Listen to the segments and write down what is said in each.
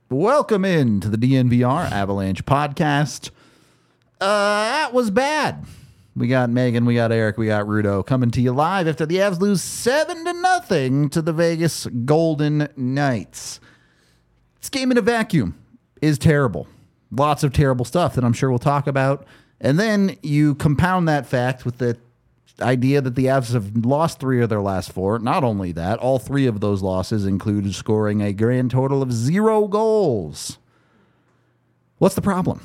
Welcome in to the DNVR Avalanche podcast. That was bad. We got Megan, we got Eric, we got Rudo coming to you live after the Avs lose 7-0 to the Vegas Golden Knights. This game in a vacuum is terrible. Lots of terrible stuff that I'm sure we'll talk about. And then you compound that fact with the idea that the Avs have lost 3 of their last 4. Not only that, all 3 of those losses included scoring a grand total of 0 goals. What's the problem?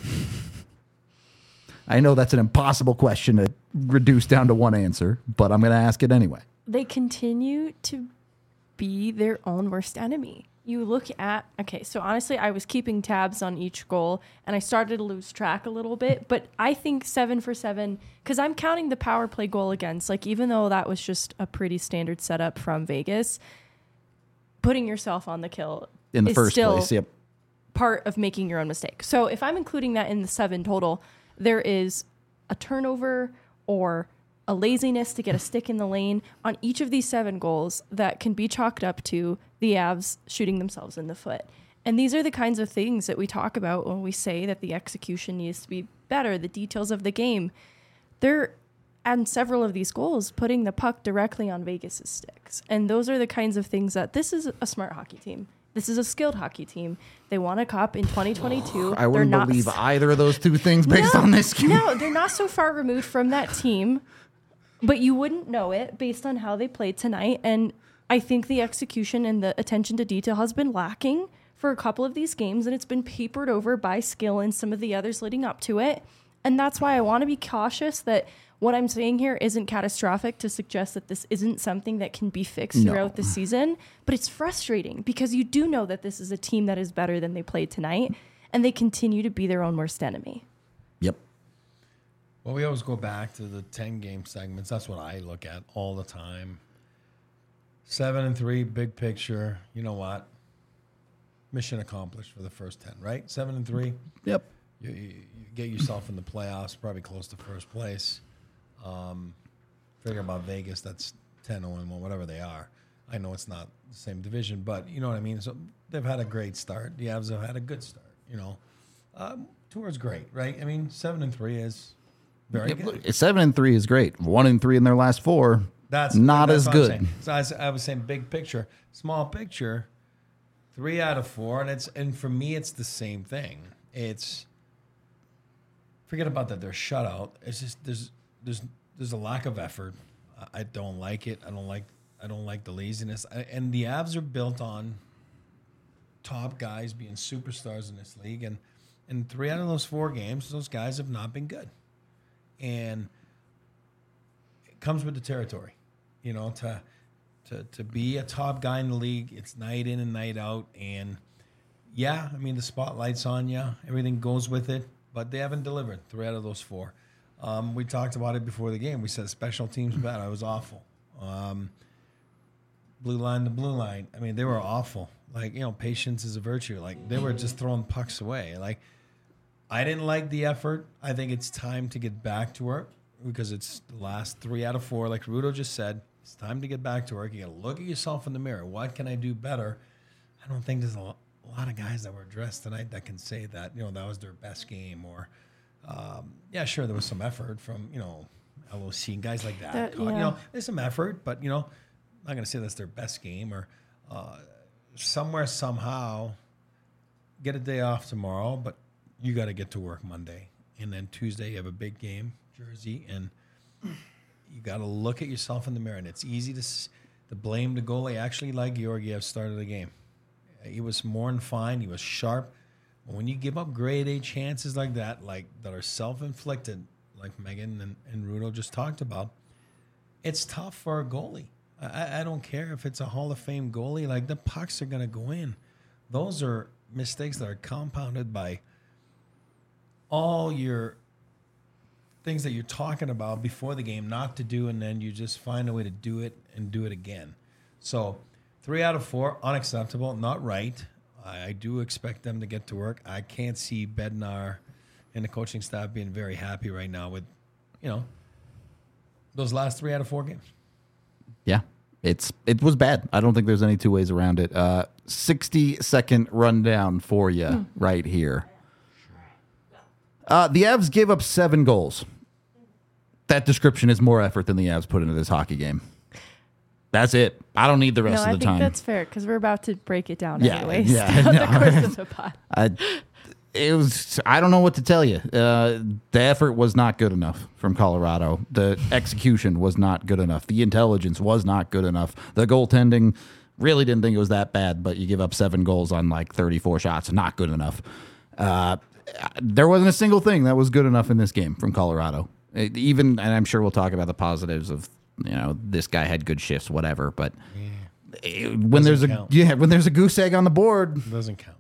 I know that's an impossible question to reduce down to one answer, but I'm going to ask it anyway. They continue to be their own worst enemy. You look at, so honestly, I was keeping tabs on each goal, and I started to lose track a little bit, but I think 7 for 7, because I'm counting the power play goal against, even though that was just a pretty standard setup from Vegas, putting yourself on the kill in the is first still place, yep. part of making your own mistake. So if I'm including that in the 7 total, there is a turnover or a laziness to get a stick in the lane on each of these 7 goals that can be chalked up to the Avs shooting themselves in the foot. And these are the kinds of things that we talk about when we say that the execution needs to be better, the details of the game. They're, and several of these goals, putting the puck directly on Vegas' sticks. And those are the kinds of things that this is a smart hockey team. This is a skilled hockey team. They won a cup in 2022. I wouldn't believe either of those 2 things based on this game. No, they're not so far removed from that team, but you wouldn't know it based on how they played tonight. And I think the execution and the attention to detail has been lacking for a couple of these games, and it's been papered over by skill and some of the others leading up to it. And that's why I want to be cautious that what I'm saying here isn't catastrophic to suggest that this isn't something that can be fixed throughout the season. But it's frustrating because you do know that this is a team that is better than they played tonight, and they continue to be their own worst enemy. Yep. Well, we always go back to the 10-game segments. That's what I look at all the time. 7-3, big picture. You know what? Mission accomplished for the first 10, right? 7-3. Yep. You get yourself in the playoffs, probably close to first place. Figure about Vegas, that's 10-1, whatever they are. I know it's not the same division, but you know what I mean? So they've had a great start. The Avs have had a good start, Tour's great, right? I mean, 7-3 is very good. 7-3 is great. 1-3 in their last 4. That's not as good. So I was saying big picture, small picture, 3 out of 4, and for me it's the same thing. It's forget about that. They're shut out. It's just there's a lack of effort. I don't like it. I don't like the laziness. And the Avs are built on top guys being superstars in this league, and 3 out of those 4 games, those guys have not been good. And it comes with the territory, to be a top guy in the league. It's night in and night out, and yeah, I mean the spotlight's on you. Everything goes with it, but they haven't delivered 3 out of those 4. We talked about it before the game. We said special teams bad. I was awful. Blue line to blue line. I mean, they were awful. Patience is a virtue. They were just throwing pucks away. I didn't like the effort. I think it's time to get back to work because it's the last 3 out of 4. Like Rudo just said, it's time to get back to work. You got to look at yourself in the mirror. What can I do better? I don't think there's a lot of guys that were dressed tonight that can say that, that was their best game or, yeah, sure, there was some effort from, LOC and guys like that. There's some effort, but, I'm not going to say that's their best game or somewhere, somehow, get a day off tomorrow, but you got to get to work Monday. And then Tuesday, you have a big game, Jersey, and you got to look at yourself in the mirror. And it's easy to blame the goalie. Actually, like Georgiev started the game. He was more than fine. He was sharp. When you give up grade A chances like that are self-inflicted, like Megan and Rudo just talked about, it's tough for a goalie. I don't care if it's a Hall of Fame goalie. The pucks are going to go in. Those are mistakes that are compounded by all your things that you're talking about before the game not to do, and then you just find a way to do it and do it again. So 3 out of 4, unacceptable, not right. I do expect them to get to work. I can't see Bednar and the coaching staff being very happy right now with, those last 3 out of 4 games. Yeah. It was bad. I don't think there's any two ways around it. 60-second rundown for you right here. The Avs gave up 7 goals. That description is more effort than the Avs put into this hockey game. That's it. I don't need the rest of the time. I think that's fair because we're about to break it down anyways. Yeah, The course of the pod. I don't know what to tell you. The effort was not good enough from Colorado. The execution was not good enough. The intelligence was not good enough. The goaltending, really didn't think it was that bad, but you give up 7 goals on like 34 shots. Not good enough. There wasn't a single thing that was good enough in this game from Colorado. And I'm sure we'll talk about the positives of, this guy had good shifts, whatever. But when there's a goose egg on the board, It doesn't count.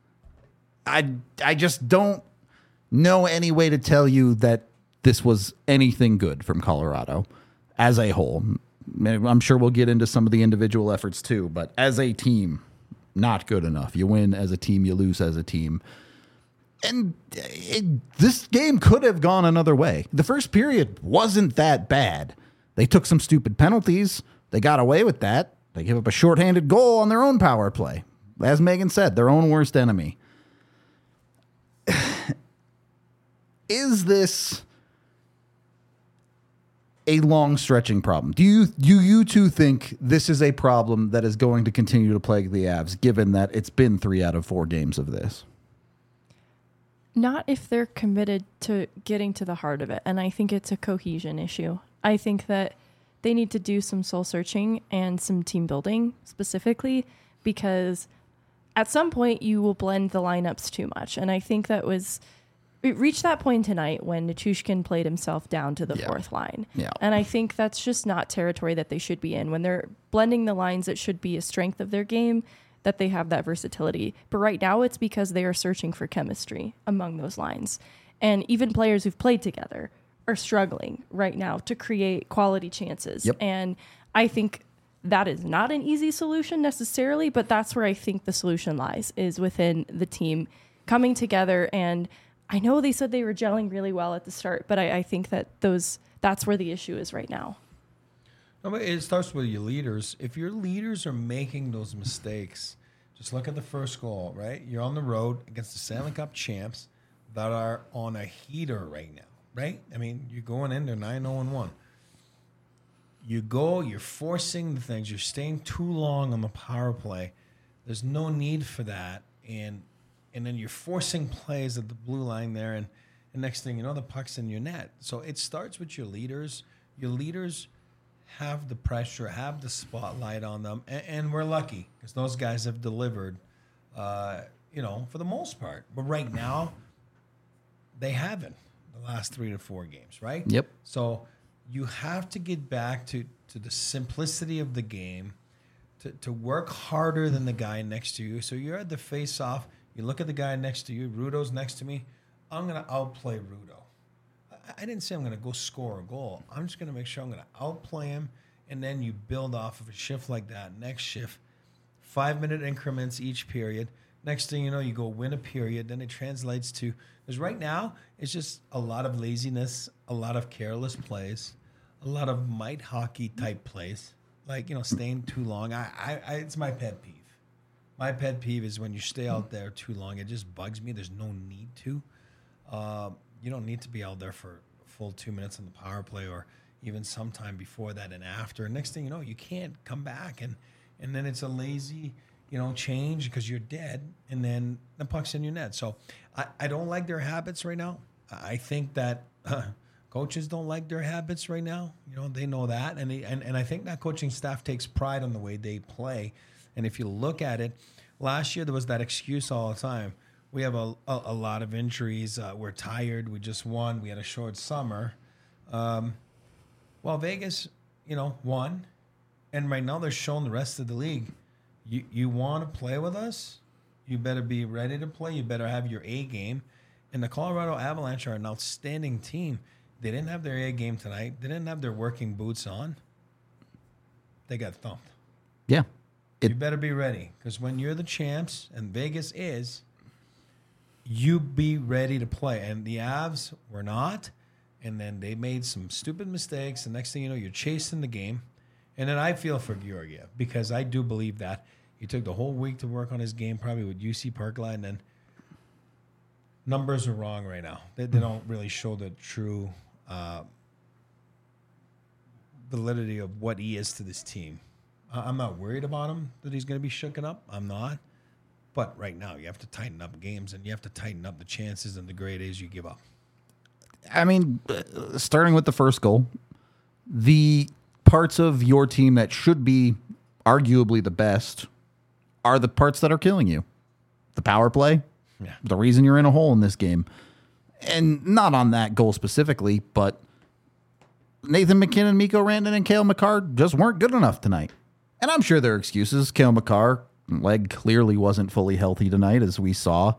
I just don't know any way to tell you that this was anything good from Colorado as a whole. I'm sure we'll get into some of the individual efforts too, but as a team, not good enough. You win as a team, you lose as a team. And this game could have gone another way. The first period wasn't that bad. They took some stupid penalties. They got away with that. They gave up a shorthanded goal on their own power play. As Megan said, their own worst enemy. Is this a long stretching problem? Do you two think this is a problem that is going to continue to plague the Avs, given that it's been 3 out of 4 games of this? Not if they're committed to getting to the heart of it. And I think it's a cohesion issue. I think that they need to do some soul searching and some team building specifically, because at some point you will blend the lineups too much. And I think it reached that point tonight when Nichushkin played himself down to the fourth line. Yeah. And I think that's just not territory that they should be in. When they're blending the lines, it should be a strength of their game that they have that versatility. But right now it's because they are searching for chemistry among those lines. And even players who've played together are struggling right now to create quality chances. Yep. And I think that is not an easy solution necessarily, but that's where I think the solution lies, is within the team coming together. And I know they said they were gelling really well at the start, but I think that that's where the issue is right now. No, but it starts with your leaders. If your leaders are making those mistakes, just look at the first goal, right? You're on the road against the Stanley Cup champs that are on a heater right now, right? I mean, you're going in, they're 9-0-1. You're forcing the things. You're staying too long on the power play. There's no need for that. And then you're forcing plays at the blue line there, and next thing you know, the puck's in your net. So it starts with your leaders. Your leaders have the pressure, have the spotlight on them, and we're lucky because those guys have delivered, for the most part. But right now, they haven't the last 3 to 4 games, right? Yep. So you have to get back to the simplicity of the game, to work harder than the guy next to you. So you're at the face-off. You look at the guy next to you. Rudo's next to me. I'm going to outplay Rudo. I didn't say I'm going to go score a goal. I'm just going to make sure I'm going to outplay him, and then you build off of a shift like that. Next shift, 5-minute increments each period. Next thing you know, you go win a period. Then it translates to, because right now it's just a lot of laziness, a lot of careless plays, a lot of might hockey type plays, like staying too long. It's my pet peeve. My pet peeve is when you stay out there too long. It just bugs me. There's no need to. You don't need to be out there for a full 2 minutes on the power play, or even sometime before that and after. Next thing you know, you can't come back, and then it's a lazy, change because you're dead, and then the puck's in your net. So I don't like their habits right now. I think that coaches don't like their habits right now. They know that, and I think that coaching staff takes pride on the way they play. And if you look at it, last year there was that excuse all the time. We have a lot of injuries. We're tired. We just won. We had a short summer. Well, Vegas, won. And right now they're showing the rest of the league, you want to play with us? You better be ready to play. You better have your A game. And the Colorado Avalanche are an outstanding team. They didn't have their A game tonight. They didn't have their working boots on. They got thumped. Yeah. You better be ready, because when you're the champs, and Vegas is, you be ready to play. And the Avs were not, and then they made some stupid mistakes. The next thing you know, you're chasing the game, And then I feel for Georgiev because I do believe that he took the whole week to work on his game, probably with UC Parkland, and then numbers are wrong right now. They don't really show the true validity of what he is to this team. I'm not worried about him, that he's going to be shooken up. I'm not. But right now, you have to tighten up games, and you have to tighten up the chances and the grade A's you give up. I mean, starting with the first goal, the parts of your team that should be arguably the best are the parts that are killing you. The power play, the reason you're in a hole in this game. And not on that goal specifically, but Nathan MacKinnon, Mikko Rantanen, and Cale Makar just weren't good enough tonight. And I'm sure there are excuses. Cale Makar, leg clearly wasn't fully healthy tonight, as we saw.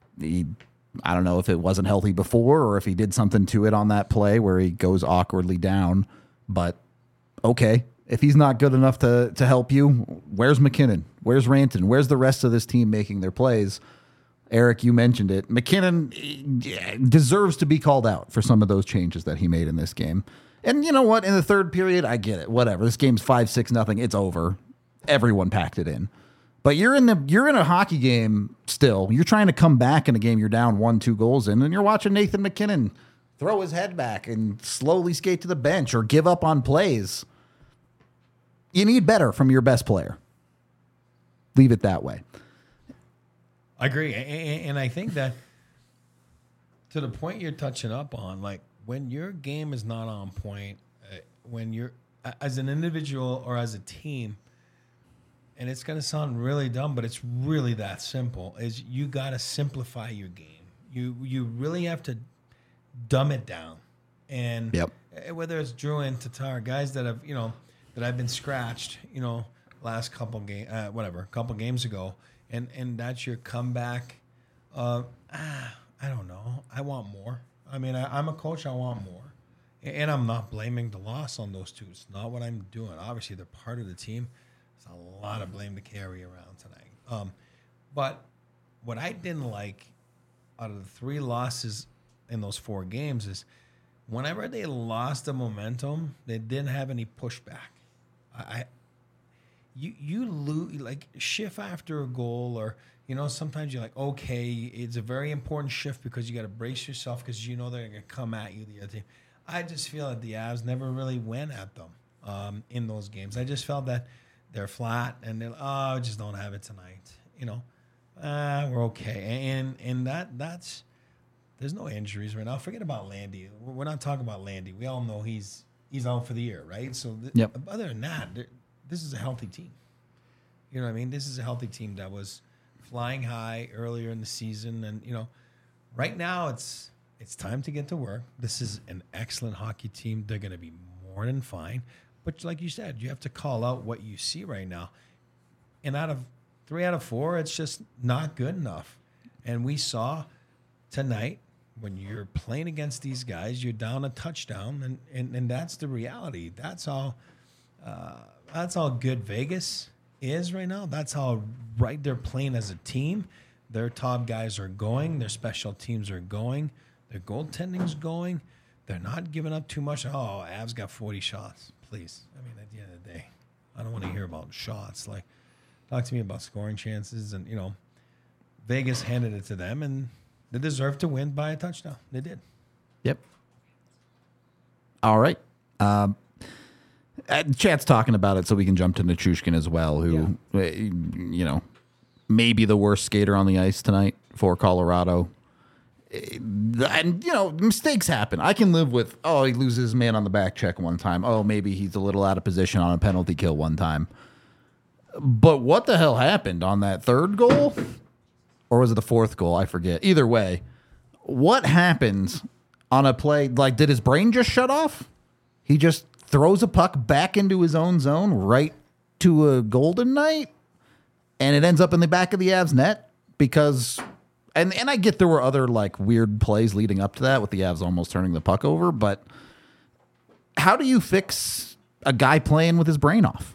I don't know if it wasn't healthy before or if he did something to it on that play where he goes awkwardly down. But okay, if he's not good enough to help you, where's MacKinnon? Where's Rantanen? Where's the rest of this team making their plays? Eric, you mentioned it. MacKinnon deserves to be called out for some of those changes that he made in this game. And you know what? In the third period, I get it. Whatever. This game's 5-6-0. It's over. Everyone packed it in. But you're in a hockey game still. You're trying to come back in a game you're down 1-2 goals in, and you're watching Nathan MacKinnon throw his head back and slowly skate to the bench or give up on plays. You need better from your best player. Leave it that way. I agree. And I think that to the point you're touching up on, like when your game is not on point, when you're as an individual or as a team, and it's going to sound really dumb, but it's really that simple, is you got to simplify your game. You really have to dumb it down. And whether it's Drew and Tatar, guys that have, that have been scratched, last couple games ago, and that's your comeback. I don't know. I want more. I mean, I'm a coach. I want more. And I'm not blaming the loss on those two. It's not what I'm doing. Obviously, they're part of the team. There's a lot of blame to carry around tonight. But what I didn't like out of the 3 losses in those 4 games is whenever they lost the momentum, they didn't have any pushback. You lose, like, shift after a goal, or sometimes you're like, okay, it's a very important shift because you got to brace yourself because they're going to come at you, the other team. I just feel that the Avs never really went at them in those games. I just felt that they're flat and they're I just don't have it tonight. We're okay, and that's there's no injuries right now. Forget about Landy. We're not talking about Landy. We all know he's out for the year, right? So other than that, this is a healthy team. You know what I mean? This is a healthy team that was flying high earlier in the season. And, right now it's time to get to work. This is an excellent hockey team. They're going to be more than fine. But like you said, you have to call out what you see right now. And out of 3 out of 4, it's just not good enough. And we saw tonight, when you're playing against these guys, you're down a touchdown, and that's the reality. That's how good Vegas is right now. That's how right they're playing as a team. Their top guys are going. Their special teams are going. Their goaltending's going. They're not giving up too much. Oh, Avs got 40 shots. Please. I mean, at the end of the day, I don't want to hear about shots. Like, talk to me about scoring chances. And, Vegas handed it to them, and they deserved to win by a touchdown. They did. Yep. All right. Chat's talking about it, so we can jump to Nichushkin as well, who, may be the worst skater on the ice tonight for Colorado. And, mistakes happen. I can live with, he loses his man on the back check one time. Oh, maybe he's a little out of position on a penalty kill one time. But what the hell happened on that 3rd goal? Or was it the 4th goal? I forget. Either way, what happens on a play? Like, did his brain just shut off? He just throws a puck back into his own zone right to a Golden Knight, and it ends up in the back of the Avs net because... And I get there were other, like, weird plays leading up to that with the Avs almost turning the puck over, but how do you fix a guy playing with his brain off?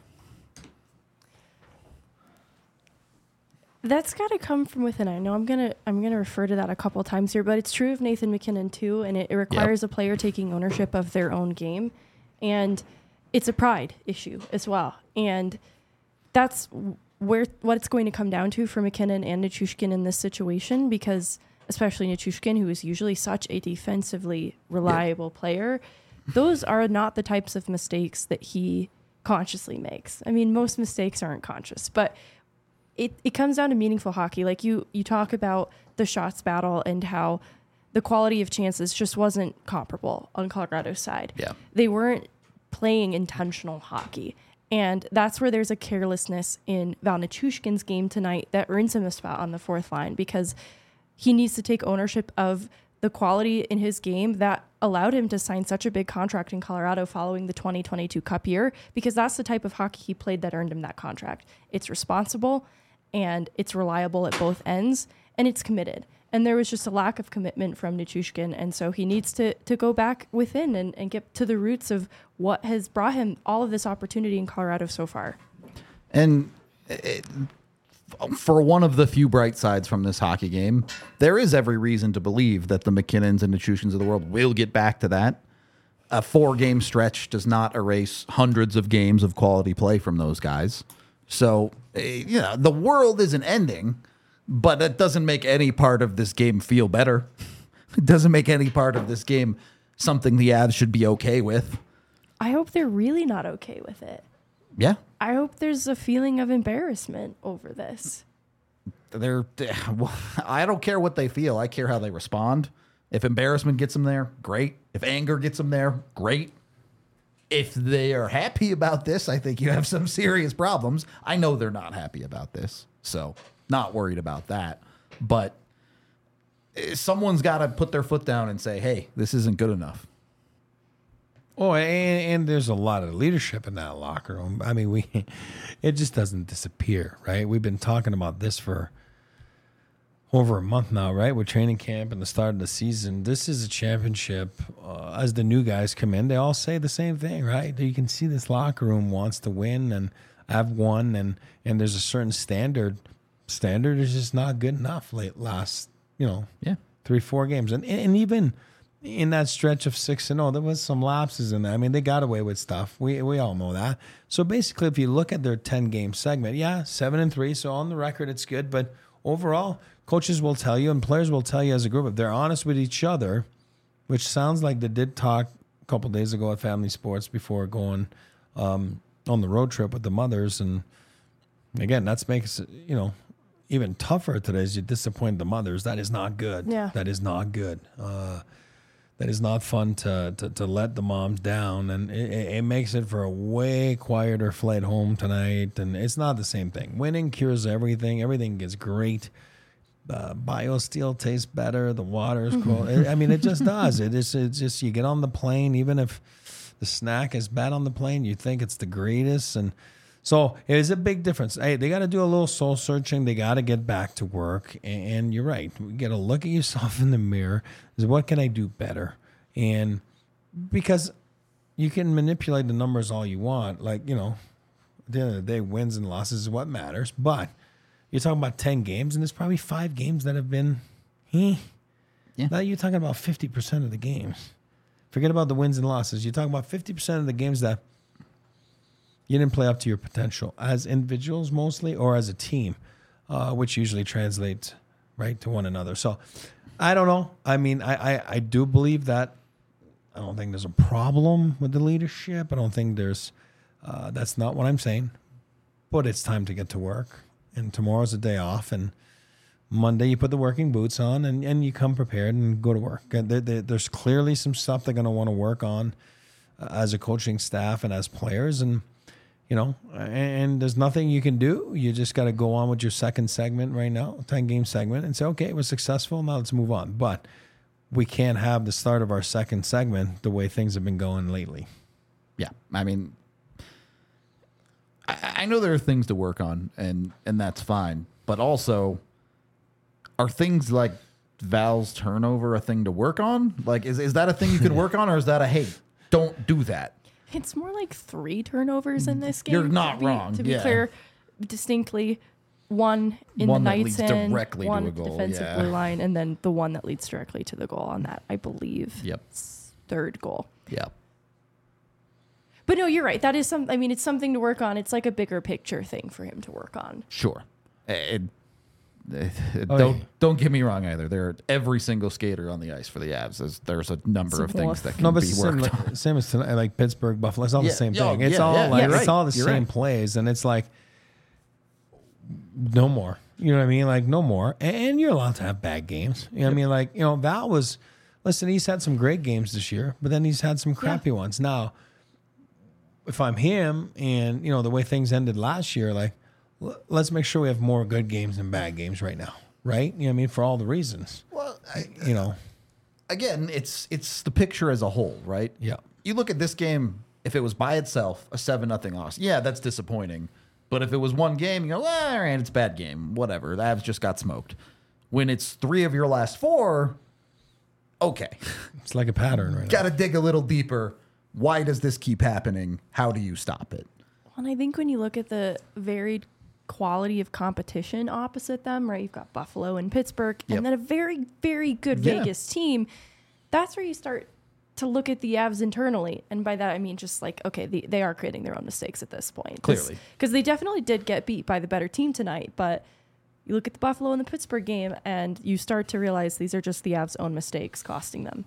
That's got to come from within. I know I'm gonna refer to that a couple times here, but it's true of Nathan MacKinnon too, and it requires a player taking ownership of their own game. And it's a pride issue as well. And that's what it's going to come down to for MacKinnon and Nichushkin in this situation, because especially Nichushkin, who is usually such a defensively reliable player, those are not the types of mistakes that he consciously makes. I mean, most mistakes aren't conscious, but it comes down to meaningful hockey. Like you talk about the shots battle and how the quality of chances just wasn't comparable on Colorado's side. Yeah. They weren't playing intentional hockey. And that's where there's a carelessness in Val Nichushkin's game tonight that earns him a spot on the fourth line, because he needs to take ownership of the quality in his game that allowed him to sign such a big contract in Colorado following the 2022 Cup year, because that's the type of hockey he played that earned him that contract. It's responsible and it's reliable at both ends and it's committed. And there was just a lack of commitment from Nichushkin. And so he needs to go back within and get to the roots of what has brought him all of this opportunity in Colorado so far. And for one of the few bright sides from this hockey game, there is every reason to believe that the MacKinnons and Nichushkins of the world will get back to that. A 4-game stretch does not erase hundreds of games of quality play from those guys. So, the world isn't ending, but that doesn't make any part of this game feel better. It doesn't make any part of this game something the Avs should be okay with. I hope they're really not okay with it. Yeah. I hope there's a feeling of embarrassment over this. I don't care what they feel. I care how they respond. If embarrassment gets them there, great. If anger gets them there, great. If they are happy about this, I think you have some serious problems. I know they're not happy about this, so not worried about that. But someone's got to put their foot down and say, hey, this isn't good enough. Oh, and there's a lot of leadership in that locker room. I mean, it just doesn't disappear, right? We've been talking about this for over a month now, right? With training camp and the start of the season. This is a championship. As the new guys come in, they all say the same thing, right? You can see this locker room wants to win and have won, and there's a certain standard. Standard is just not good enough last 3-4 games. And even in that stretch of 6-0, there was some lapses in there. I mean, they got away with stuff. We all know that. So basically, if you look at their 10-game segment, 7-3. So on the record, it's good. But overall, coaches will tell you and players will tell you as a group, if they're honest with each other, which sounds like they did talk a couple of days ago at Family Sports before going on the road trip with the mothers. And again, that makes even tougher today as you disappoint the mothers. That is not good. Yeah. That is not good. That is not fun to let the moms down, and it makes it for a way quieter flight home tonight. And it's not the same thing. Winning cures everything. Everything gets great. BioSteel tastes better. The water is cool. I mean, it just does. It's just you get on the plane, even if the snack is bad on the plane, you think it's the greatest. And so it is a big difference. Hey, they got to do a little soul searching. They got to get back to work. And you're right. You got to look at yourself in the mirror. Is what can I do better? And because you can manipulate the numbers all you want. Like, at the end of the day, wins and losses is what matters. But you're talking about 10 games, and there's probably 5 games that have been, Yeah. Now you're talking about 50% of the games. Forget about the wins and losses. You're talking about 50% of the games that you didn't play up to your potential as individuals mostly or as a team, which usually translates right to one another. So I don't know. I mean, I do believe that I don't think there's a problem with the leadership. I don't think there's that's not what I'm saying. But it's time to get to work. And tomorrow's a day off. And Monday you put the working boots on and you come prepared and go to work. There's clearly some stuff they're going to want to work on as a coaching staff and as players. And and there's nothing you can do. You just got to go on with your second segment right now, 10-game segment, and say, okay, it was successful. Now let's move on. But we can't have the start of our second segment the way things have been going lately. Yeah. I mean, I know there are things to work on, and that's fine. But also, are things like Val's turnover a thing to work on? Like, is that a thing you can work on, or is that a, hey, don't do that? It's more like 3 turnovers in this game. You're not wrong. To be clear, distinctly, one in One the that leads Knights end, directly to one a at the goal, defensive yeah. blue line, and then the one that leads directly to the goal on that, I believe. Yep. Third goal. Yeah. But no, you're right. That is I mean, it's something to work on. It's like a bigger picture thing for him to work on. Sure. Don't get me wrong either. There, every single skater on the ice for the Avs, there's a number of things that can be worked on. Same as tonight, like Pittsburgh, Buffalo. It's all the same thing. It's all it's all the same plays, and it's like no more. You know what I mean? Like no more. And you're allowed to have bad games. You know what I mean? Like Val was. Listen, he's had some great games this year, but then he's had some crappy ones. Now, if I'm him, and the way things ended last year, like. Let's make sure we have more good games than bad games right now, right? You know what I mean? For all the reasons. Well, again, it's the picture as a whole, right? Yeah. You look at this game, if it was by itself, a 7-0 loss, yeah, that's disappointing. But if it was one game, you go, all right, it's a bad game, whatever. The Avs just got smoked. When it's 3 of your last 4, okay. It's like a pattern right now. Got to dig a little deeper. Why does this keep happening? How do you stop it? And I think when you look at the varied quality of competition opposite them, right? You've got Buffalo and Pittsburgh, and then a very, very good Vegas team. That's where you start to look at the Avs internally. And by that, I mean just like, okay, they are creating their own mistakes at this point. Clearly. Because they definitely did get beat by the better team tonight. But you look at the Buffalo and the Pittsburgh game, and you start to realize these are just the Avs' own mistakes costing them.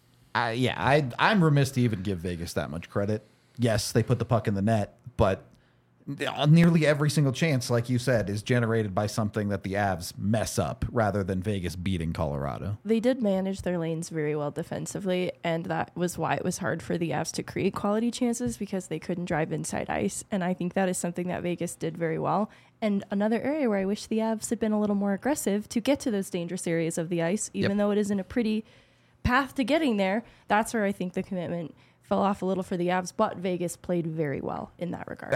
I'm remiss to even give Vegas that much credit. Yes, they put the puck in the net, but nearly every single chance, like you said, is generated by something that the Avs mess up rather than Vegas beating Colorado. They did manage their lanes very well defensively, and that was why it was hard for the Avs to create quality chances, because they couldn't drive inside ice. And I think that is something that Vegas did very well. And another area where I wish the Avs had been a little more aggressive to get to those dangerous areas of the ice, even though it isn't a pretty path to getting there, that's where I think the commitment fell off a little for the Avs, but Vegas played very well in that regard.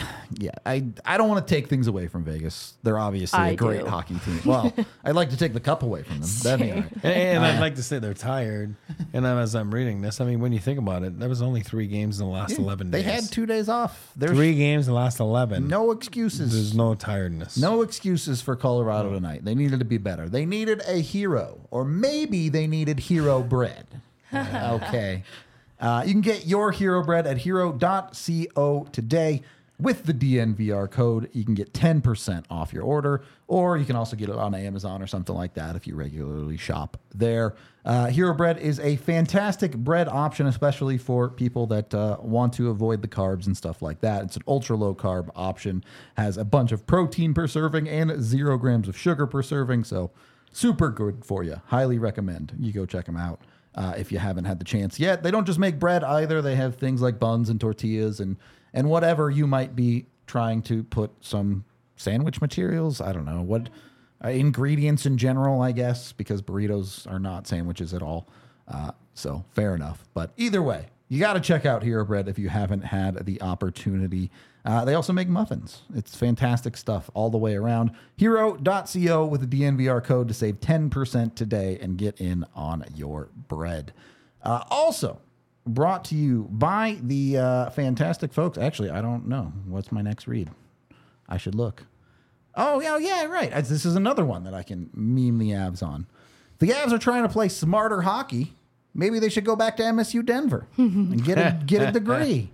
I don't want to take things away from Vegas. They're obviously a great hockey team. Well, I'd like to take the cup away from them. That'd be all right. And I'd like to say they're tired. And as I'm reading this, I mean, when you think about it, there was only 3 games in the last 11 days. They had 2 days off. There's 3 games in the last 11. No excuses. There's no tiredness. No excuses for Colorado tonight. They needed to be better. They needed a hero, or maybe they needed hero bread. Okay. You can get your Hero Bread at hero.co today with the DNVR code. You can get 10% off your order, or you can also get it on Amazon or something like that if you regularly shop there. Hero Bread is a fantastic bread option, especially for people that want to avoid the carbs and stuff like that. It's an ultra low carb option, has a bunch of protein per serving and 0 grams of sugar per serving. So super good for you. Highly recommend you go check them out. If you haven't had the chance yet. They don't just make bread either. They have things like buns and tortillas and whatever you might be trying to put some sandwich materials. I don't know what ingredients in general, I guess, because burritos are not sandwiches at all. So fair enough. But either way, you got to check out Hero Bread if you haven't had the opportunity. They also make muffins. It's fantastic stuff all the way around. Hero.co with the DNVR code to save 10% today and get in on your bread. Also brought to you by the fantastic folks. Actually, I don't know. What's my next read? I should look. Oh, yeah, right. This is another one that I can meme the Avs on. The Avs are trying to play smarter hockey. Maybe they should go back to MSU Denver and get a degree.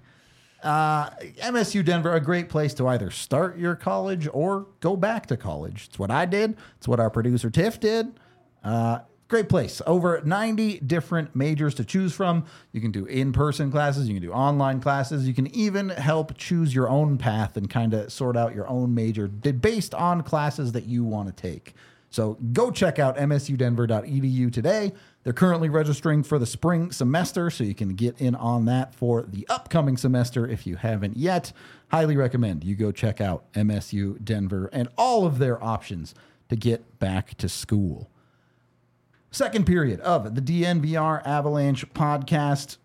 MSU Denver, a great place to either start your college or go back to college. It's what I did. It's what our producer Tiff did. Great place. Over 90 different majors to choose from. You can do in-person classes. You can do online classes. You can even help choose your own path and kind of sort out your own major based on classes that you want to take. So go check out msudenver.edu today. They're currently registering for the spring semester, so you can get in on that for the upcoming semester if you haven't yet. Highly recommend you go check out MSU Denver and all of their options to get back to school. Second period of the DNVR Avalanche podcast.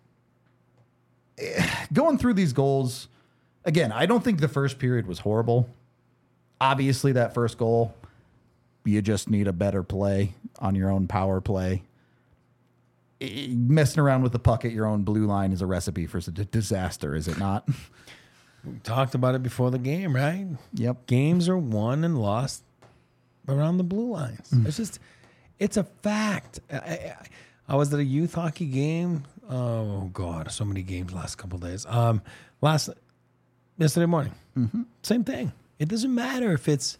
Going through these goals, again, I don't think the first period was horrible. Obviously, that first goal, you just need a better play on your own power play. Messing around with the puck at your own blue line is a recipe for disaster, is it not? We talked about it before the game, right? Yep. Games are won and lost around the blue lines. It's a fact. I was at a youth hockey game. Oh God, so many games last couple of days. Yesterday morning. Same thing. It doesn't matter if it's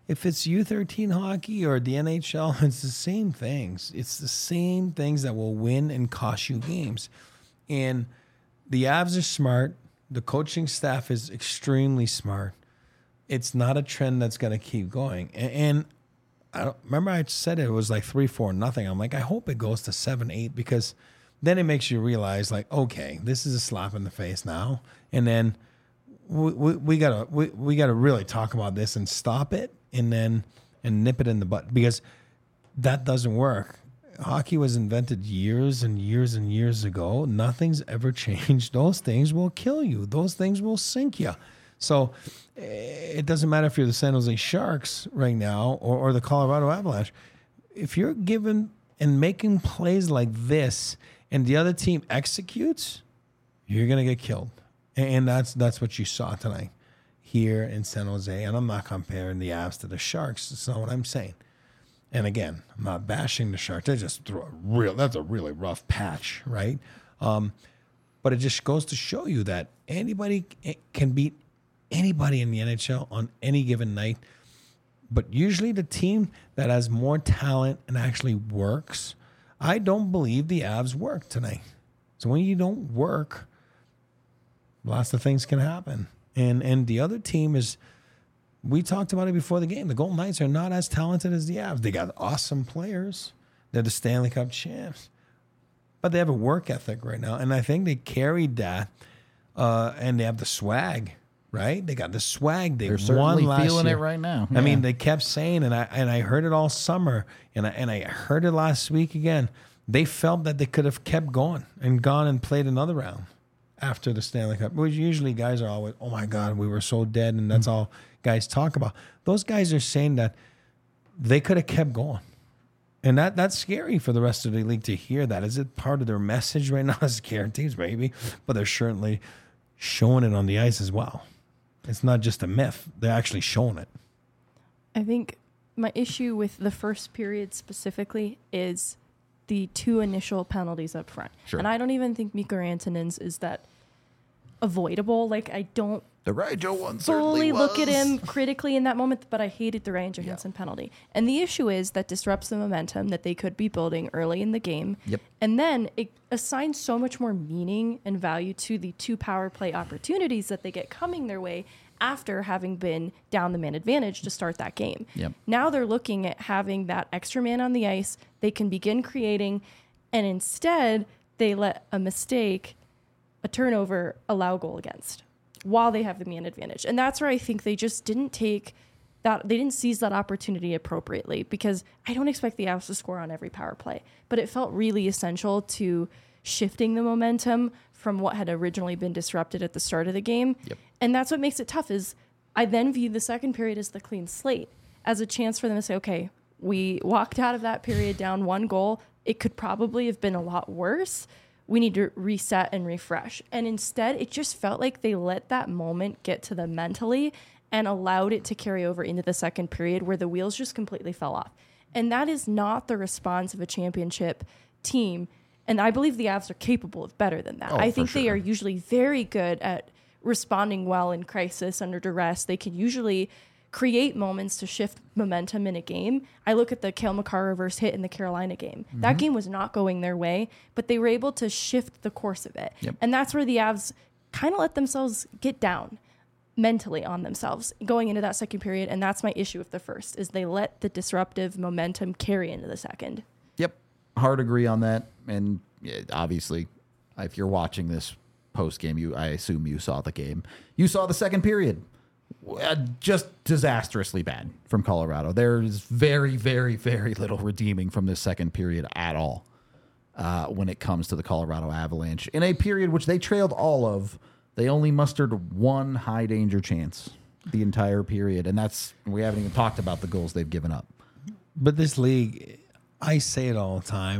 U13 hockey or the NHL. It's the same things. It's the same things that will win and cost you games. And the Avs are smart. The coaching staff is extremely smart. It's not a trend that's going to keep going. And I don't remember I said it was like 3-4-0. I'm like, I hope it goes to 7-8 because then it makes you realize like, okay, this is a slap in the face now. And then we gotta really talk about this and stop it and nip it in the butt because that doesn't work. Hockey was invented years and years and years ago. Nothing's ever changed. Those things will kill you. Those things will sink you. So it doesn't matter if you're the San Jose Sharks right now or the Colorado Avalanche. If you're given and making plays like this and the other team executes, you're going to get killed. And that's what you saw tonight here in San Jose. And I'm not comparing the Avs to the Sharks. That's not what I'm saying. And again, I'm not bashing the Sharks. They just threw that's a really rough patch, right? But it just goes to show you that anybody can beat anybody in the NHL on any given night. But usually the team that has more talent and actually works, I don't believe the Avs worked tonight. So when you don't work, lots of things can happen. And the other team is, we talked about it before the game. The Golden Knights are not as talented as the Avs. They got awesome players. They're the Stanley Cup champs. But they have a work ethic right now. And I think they carried that. And they have the swag, right? They got the swag. They're certainly won last feeling year. it right now. I mean, they kept saying, and I heard it all summer, and I heard it last week again. They felt that they could have kept going and gone and played another round after the Stanley Cup. Which usually guys are always, oh my God, we were so dead, and that's all guys talk about. Those guys are saying that they could have kept going. And that's scary for the rest of the league to hear that. Is it part of their message right now as guarantees, maybe? But they're certainly showing it on the ice as well. It's not just a myth. They're actually showing it. I think my issue with the first period specifically is the two initial penalties up front. Sure. And I don't even think Mikko Rantanen's is that avoidable. Like, I don't The Ryan one certainly fully look at was. him critically in that moment, but I hated the Ryan Johansson penalty. And the issue is that disrupts the momentum that they could be building early in the game. Yep. And then it assigns so much more meaning and value to the two power play opportunities that they get coming their way after having been down the man advantage to start that game. Yep. Now they're looking at having that extra man on the ice. They can begin creating, and instead they let a mistake, a turnover, allow goal against while they have the man advantage. And that's where I think they just didn't take that, they didn't seize that opportunity appropriately, because I don't expect the Avs to score on every power play, but it felt really essential to shifting the momentum from what had originally been disrupted at the start of the game. Yep. And that's what makes it tough. Is I then view the second period as the clean slate, as a chance for them to say, okay, we walked out of that period down one goal. It could probably have been a lot worse. We need to reset and refresh. And instead, it just felt like they let that moment get to them mentally and allowed it to carry over into the second period, where the wheels just completely fell off. And that is not the response of a championship team. And I believe the Avs are capable of better than that. Oh, I think for they sure. are usually very good at responding well in crisis under duress. They can usually create moments to shift momentum in a game. I look at the Cale Makar reverse hit in the Carolina game. Mm-hmm. That game was not going their way, but they were able to shift the course of it. Yep. And that's where the Avs kind of let themselves get down mentally on themselves going into that second period. And that's my issue with the first, is they let the disruptive momentum carry into the second. Yep. Hard agree on that. And obviously, if you're watching this post game, I assume you saw the game. You saw the second period. Just disastrously bad from Colorado. There's very, very, very little redeeming from this second period at all when it comes to the Colorado Avalanche. In a period which they trailed all of, they only mustered one high danger chance the entire period. And we haven't even talked about the goals they've given up. But this league, I say it all the time,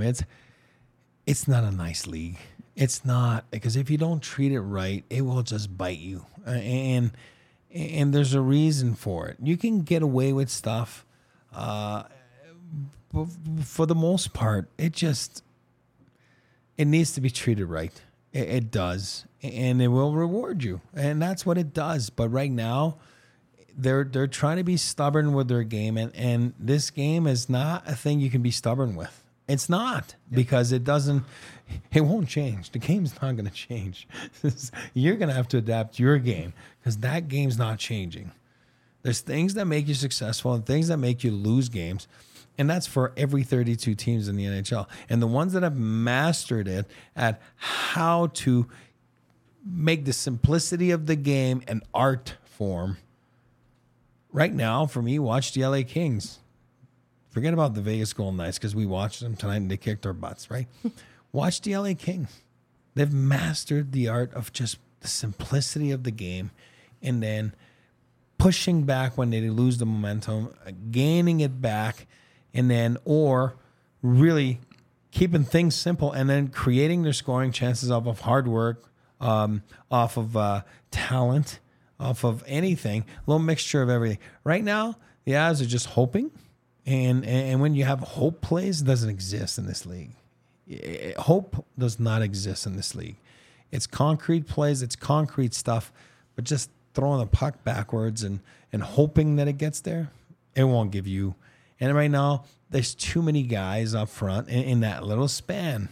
it's not a nice league. It's not, because if you don't treat it right, it will just bite you. And there's a reason for it. You can get away with stuff. But for the most part, it needs to be treated right. It does, and it will reward you, and that's what it does. But right now, they're trying to be stubborn with their game, and this game is not a thing you can be stubborn with. It's not, because it won't change. The game's not going to change. You're going to have to adapt your game, because that game's not changing. There's things that make you successful and things that make you lose games. And that's for every 32 teams in the NHL. And the ones that have mastered it at how to make the simplicity of the game an art form. Right now, for me, watch the LA Kings. Forget about the Vegas Golden Knights, because we watched them tonight and they kicked our butts, right? Watch the LA Kings. They've mastered the art of just the simplicity of the game, and then pushing back when they lose the momentum, gaining it back, and then, or really keeping things simple and then creating their scoring chances off of hard work, off of talent, off of anything, a little mixture of everything. Right now, the Avs are just hoping. And when you have hope plays, it doesn't exist in this league. Hope does not exist in this league. It's concrete plays, it's concrete stuff, but just throwing the puck backwards and hoping that it gets there, it won't give you. And right now, there's too many guys up front in that little span,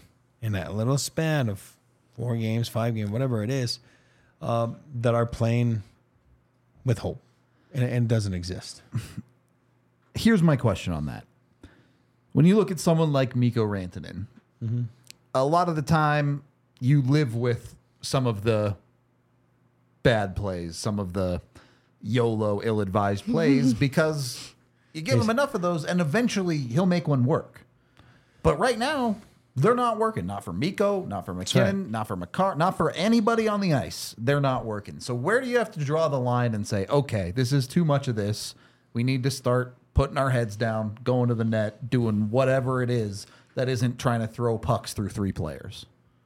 of 4 games, 5 games, whatever it is, that are playing with hope, and it doesn't exist. Here's my question on that. When you look at someone like Mikko Rantanen, a lot of the time you live with some of the bad plays, some of the YOLO, ill-advised plays, because you give him enough of those, and eventually he'll make one work. But right now, they're not working. Not for Mikko, not for McKinnon, not for McCarr, not for anybody on the ice. They're not working. So where do you have to draw the line and say, okay, this is too much of this. We need to start putting our heads down, going to the net, doing whatever it is that isn't trying to throw pucks through 3 players?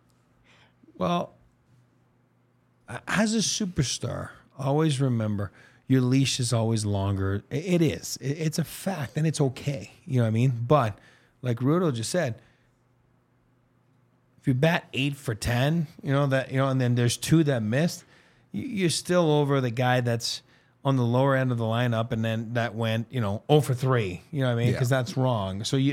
Well, as a superstar, always remember your leash is always longer. It is. It's a fact, and it's okay. You know what I mean? But like Rudo just said, if you bat 8 for 10, and then there's 2 that missed, you're still over the guy that's on the lower end of the lineup, and then that went, 0 for 3. You know what I mean? Because that's wrong. So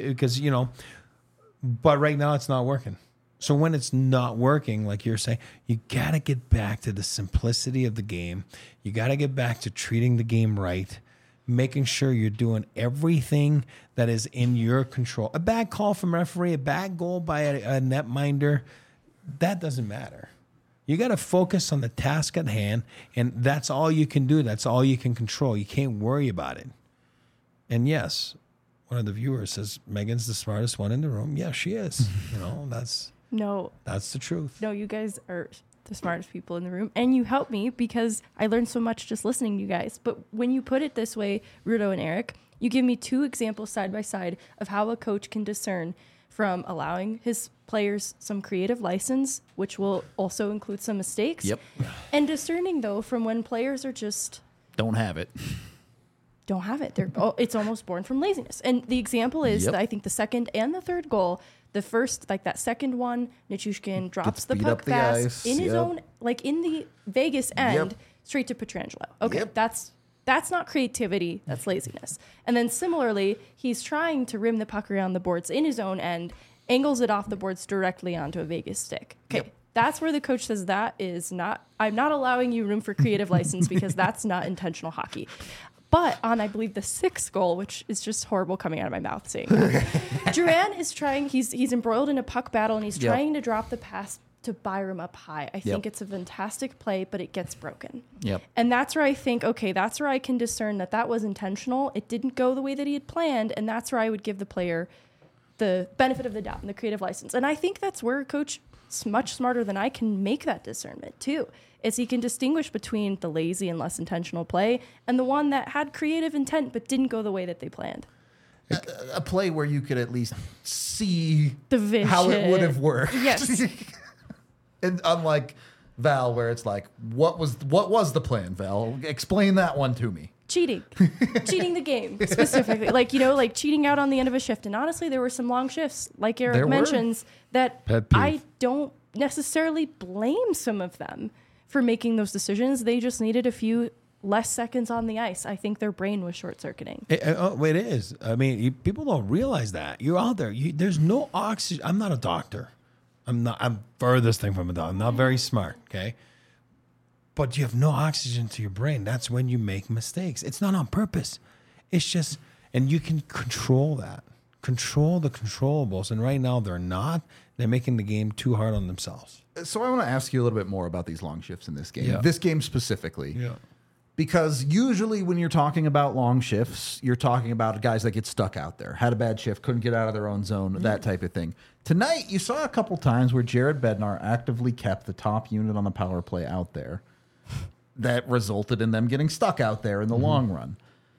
but right now it's not working. So when it's not working, like you're saying, you got to get back to the simplicity of the game. You got to get back to treating the game right, making sure you're doing everything that is in your control. A bad call from a referee, a bad goal by a netminder, that doesn't matter. You got to focus on the task at hand, and that's all you can do. That's all you can control. You can't worry about it. And yes, one of the viewers says, Megan's the smartest one in the room. Yeah, she is. That's the truth. No, you guys are the smartest people in the room, and you help me because I learned so much just listening to you guys. But when you put it this way, Rudo and Eric, you give me 2 examples side by side of how a coach can discern from allowing his players some creative license, which will also include some mistakes. Yep. And discerning, though, from when players are just don't have it. It's almost born from laziness. And the example is that I think the second and the third goal, the first, like that second one, Nichushkin drops the puck fast in his own, like in the Vegas end, straight to Pietrangelo. Okay, that's not creativity, that's laziness. And then similarly, he's trying to rim the puck around the boards in his own end, angles it off the boards directly onto a Vegas stick. Okay, that's where the coach says I'm not allowing you room for creative license because that's not intentional hockey. But on, I believe, the 6th goal, which is just horrible coming out of my mouth saying that, Duran is trying, he's embroiled in a puck battle, and he's trying to drop the pass to Byram up high. I think it's a fantastic play, but it gets broken. Yep. And that's where I think, okay, that's where I can discern that was intentional. It didn't go the way that he had planned, and that's where I would give the player the benefit of the doubt and the creative license. And I think that's where a coach is much smarter than I can make that discernment too. Is he can distinguish between the lazy and less intentional play and the one that had creative intent but didn't go the way that they planned. A play where you could at least see the vision, how it would have worked. Yes. And unlike Val, where it's like, what was the plan, Val? Explain that one to me. Cheating the game specifically, like cheating out on the end of a shift. And honestly, there were some long shifts, like Eric mentions, that I don't necessarily blame some of them for making those decisions. They just needed a few less seconds on the ice. I think their brain was short-circuiting. It is. I mean, people don't realize that. You're out there. There's no oxygen. I'm not a doctor. I'm furthest thing from a doctor. I'm not very smart, okay? But you have no oxygen to your brain. That's when you make mistakes. It's not on purpose. It's just, and you can control that. Control the controllables. And right now they're not. They're making the game too hard on themselves. So I want to ask you a little bit more about these long shifts in this game. Yeah. This game specifically. Yeah. Because usually when you're talking about long shifts, you're talking about guys that get stuck out there, had a bad shift, couldn't get out of their own zone, that type of thing. Tonight, you saw a couple times where Jared Bednar actively kept the top unit on the power play out there. That resulted in them getting stuck out there in the long run.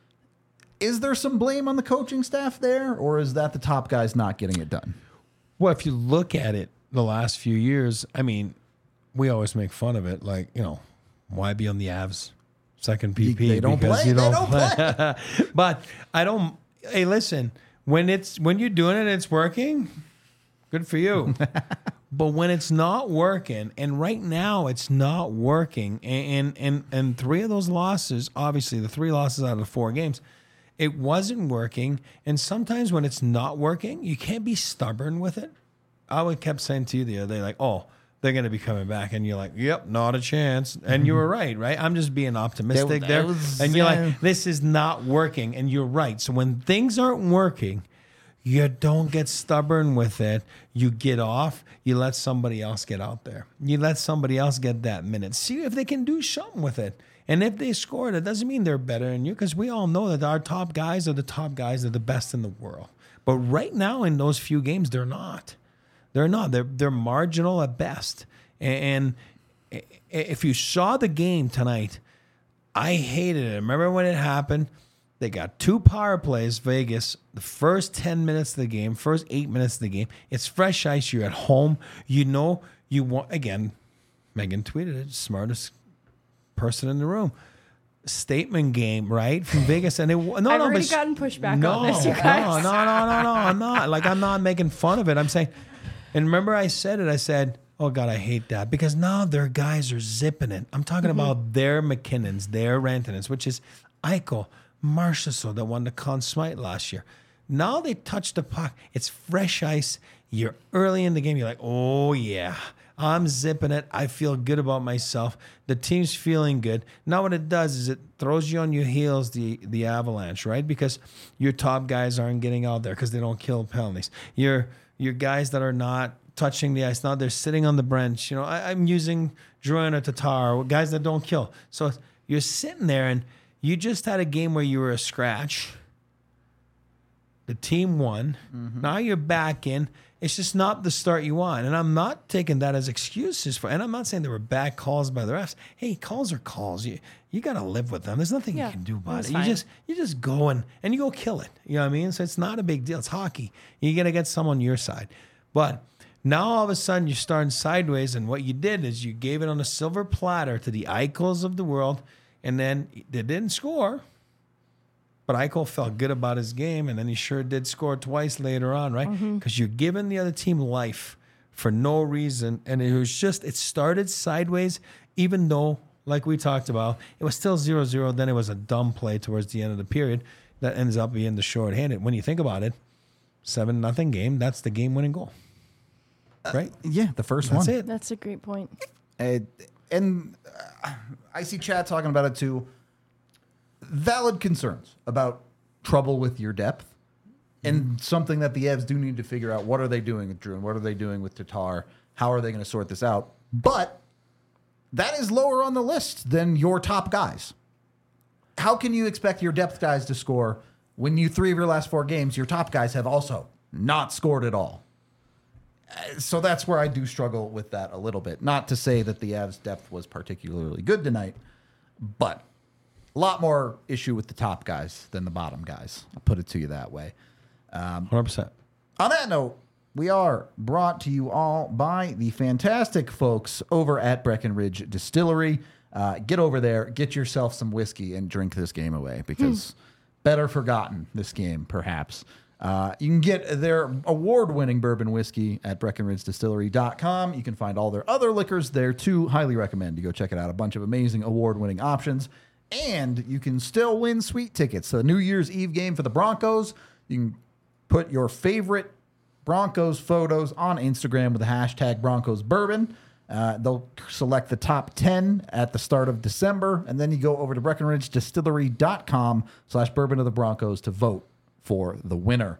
Is there some blame on the coaching staff there, or is that the top guys not getting it done? Well, if you look at it the last few years, I mean, we always make fun of it. Like, why be on the Avs second PP? They don't because play. you They don't don't play. But I don't. Hey, listen. When you're doing it, it's working. Good for you. But when it's not working, and right now it's not working, and 3 of those losses, obviously the 3 losses out of the 4 games, it wasn't working. And sometimes when it's not working, you can't be stubborn with it. I kept saying to you the other day, like, oh, they're going to be coming back. And you're like, yep, not a chance. And you were right? I'm just being optimistic there. And you're like, this is not working. And you're right. So when things aren't working, you don't get stubborn with it. You get off. You let somebody else get out there. You let somebody else get that minute. See if they can do something with it. And if they score, that doesn't mean they're better than you, because we all know that our top guys are the top guys. They're the best in the world. But right now in those few games, they're not. They're not. They're marginal at best. And if you saw the game tonight, I hated it. Remember when it happened? They got 2 power plays, Vegas, the first 10 minutes of the game, first 8 minutes of the game. It's fresh ice. You're at home. You want, again, Megan tweeted it, smartest person in the room. Statement game, right? From Vegas. And I've already gotten pushback on this, you guys. No, I'm not. Like, I'm not making fun of it. I'm saying, and remember I said it, I said, oh God, I hate that, because now their guys are zipping it. I'm talking about their McKinnons, their Rantanens, which is Eichel, Marchessault that won the Conn Smythe last year. Now they touch the puck. It's fresh ice. You're early in the game. You're like, oh yeah, I'm zipping it. I feel good about myself. The team's feeling good. Now what it does is it throws you on your heels, the Avalanche, right? Because your top guys aren't getting out there because they don't kill penalties. Your guys that are not touching the ice, now they're sitting on the bench. I'm using Drouin or Tatar, guys that don't kill. So you're sitting there and you just had a game where you were a scratch. The team won. Now you're back in. It's just not the start you want. And I'm not taking that as excuses and I'm not saying there were bad calls by the refs. Hey, calls are calls. You got to live with them. There's nothing you can do about it. You just go and you go kill it. You know what I mean? So it's not a big deal. It's hockey. You got to get someone on your side. But now all of a sudden you're starting sideways, and what you did is you gave it on a silver platter to the Eichels of the world. And then they didn't score, but Eichel felt good about his game, and then he sure did score twice later on, right? Because you're giving the other team life for no reason, and it started sideways, even though, like we talked about, it was still 0-0. Then it was a dumb play towards the end of the period that ends up being the shorthanded. When you think about it, 7-0 game, that's the game-winning goal, right? Yeah, the first one. That's it. That's a great point. And I see Chad talking about it too. Valid concerns about trouble with your depth, and something that the Avs do need to figure out. What are they doing with Drew, and what are they doing with Tatar? How are they going to sort this out? But that is lower on the list than your top guys. How can you expect your depth guys to score when 3 of your last 4 games, your top guys have also not scored at all? So that's where I do struggle with that a little bit. Not to say that the Avs' depth was particularly good tonight, but a lot more issue with the top guys than the bottom guys. I'll put it to you that way. 100%. On that note, we are brought to you all by the fantastic folks over at Breckenridge Distillery. Get over there, get yourself some whiskey, and drink this game away, because better forgotten, this game, perhaps. You can get their award-winning bourbon whiskey at BreckenridgeDistillery.com. You can find all their other liquors there too. Highly recommend you go check it out. A bunch of amazing award-winning options. And you can still win sweet tickets. So the New Year's Eve game for the Broncos, you can put your favorite Broncos photos on Instagram with the hashtag Broncos Bourbon. They'll select the top 10 at the start of December. And then you go over to BreckenridgeDistillery.com/bourbon of the Broncos to vote for the winner.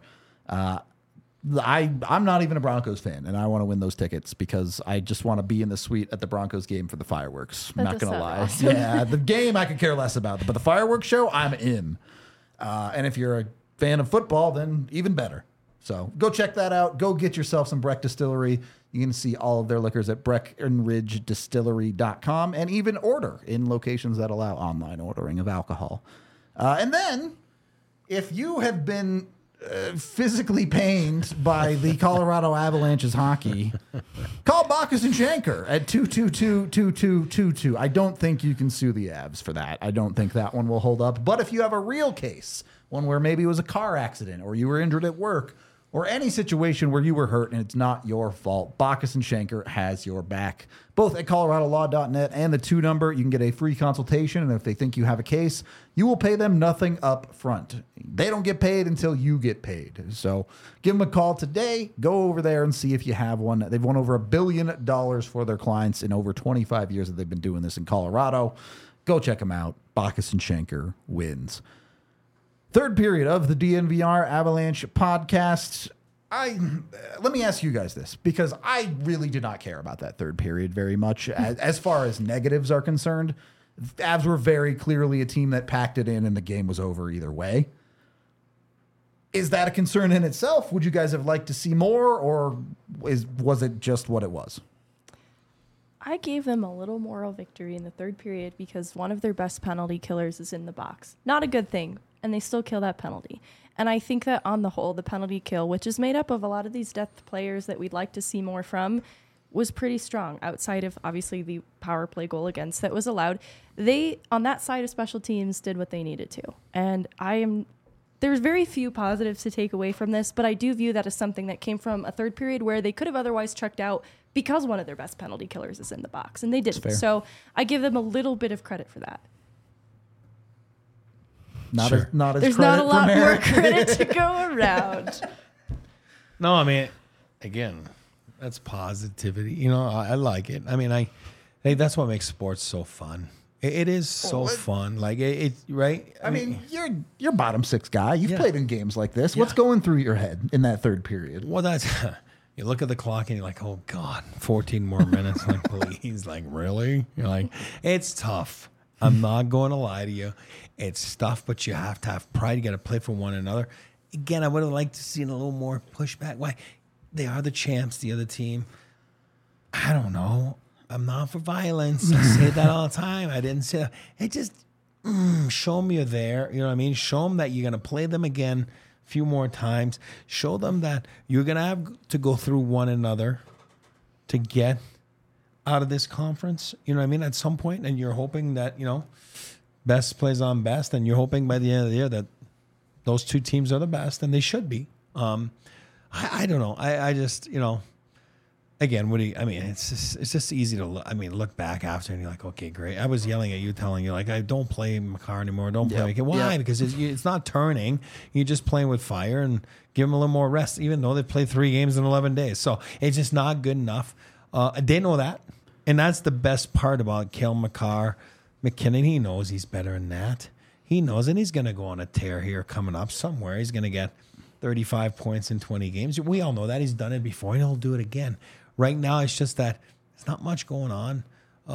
I'm not even a Broncos fan, and I want to win those tickets because I just want to be in the suite at the Broncos game for the fireworks. That Not does going to sound lie. awesome. Yeah, the game I could care less about, but the fireworks show, I'm in. And if you're a fan of football, then even better. So go check that out. Go get yourself some Breck Distillery. You can see all of their liquors at BreckenridgeDistillery.com and even order in locations that allow online ordering of alcohol. And then, if you have been physically pained by the Colorado Avalanche's hockey, call Bacchus and Shanker at 222-2222. I don't think you can sue the Avs for that. I don't think that one will hold up. But if you have a real case, one where maybe it was a car accident or you were injured at work or any situation where you were hurt and it's not your fault, Bacchus and Shanker has your back. Both at coloradolaw.net and the 2 number, you can get a free consultation, and if they think you have a case, you will pay them nothing up front. They don't get paid until you get paid. So give them a call today. Go over there and see if you have one. They've won over $1 billion for their clients in over 25 years that they've been doing this in Colorado. Go check them out. Bacchus and Shanker wins. Third period of the DNVR Avalanche podcast. Let me ask you guys this, because I really did not care about that third period very much. As far as negatives are concerned, the Avs were very clearly a team that packed it in and the game was over either way. Is that a concern in itself? Would you guys have liked to see more, or was it just what it was? I gave them a little moral victory in the third period because one of their best penalty killers is in the box. Not a good thing, and they still kill that penalty. And I think that on the whole, the penalty kill, which is made up of a lot of these depth players that we'd like to see more from, was pretty strong outside of obviously the power play goal against that was allowed. They, on that side of special teams, did what they needed to. And there's very few positives to take away from this, but I do view that as something that came from a third period where they could have otherwise checked out because one of their best penalty killers is in the box, and they didn't. So I give them a little bit of credit for that. Not as There's not a lot more credit to go around. No, I mean, again, that's positivity. You know, I like it. I mean, I think that's what makes sports so fun. It is so fun. Like it right? I mean, you're bottom six guy. You've played in games like this. What's going through your head in that third period? Well, that's you look at the clock and you're like, oh God, 14 more minutes. Like, please, like, really? You're like, it's tough. I'm not going to lie to you. It's tough, but you have to have pride. You got to play for one another. Again, I would have liked to see a little more pushback. Why? They are the champs, the other team. I don't know. I'm not for violence. I say that all the time. I didn't say that. It just, show them you're there. You know what I mean? Show them that you're going to play them again a few more times. Show them that you're going to have to go through one another to get out of this conference. You know what I mean? At some point, and you're hoping that, you know, best plays on best, and you're hoping by the end of the year that those two teams are the best, and they should be. I don't know. I just, you know, again, it's just easy to look back after and you're like, okay, great. I was yelling at you, telling you like, I don't play Makar anymore. Don't play Makar. Why? Because it's not turning. You're just playing with fire, and give them a little more rest, even though they played 3 games in 11 days. So it's just not good enough. They know that. And that's the best part about Cale Makar. McKinnon, he knows he's better than that. He knows, and he's going to go on a tear here coming up somewhere. He's going to get 35 points in 20 games. We all know that. He's done it before, and he'll do it again. Right now, it's just that there's not much going on.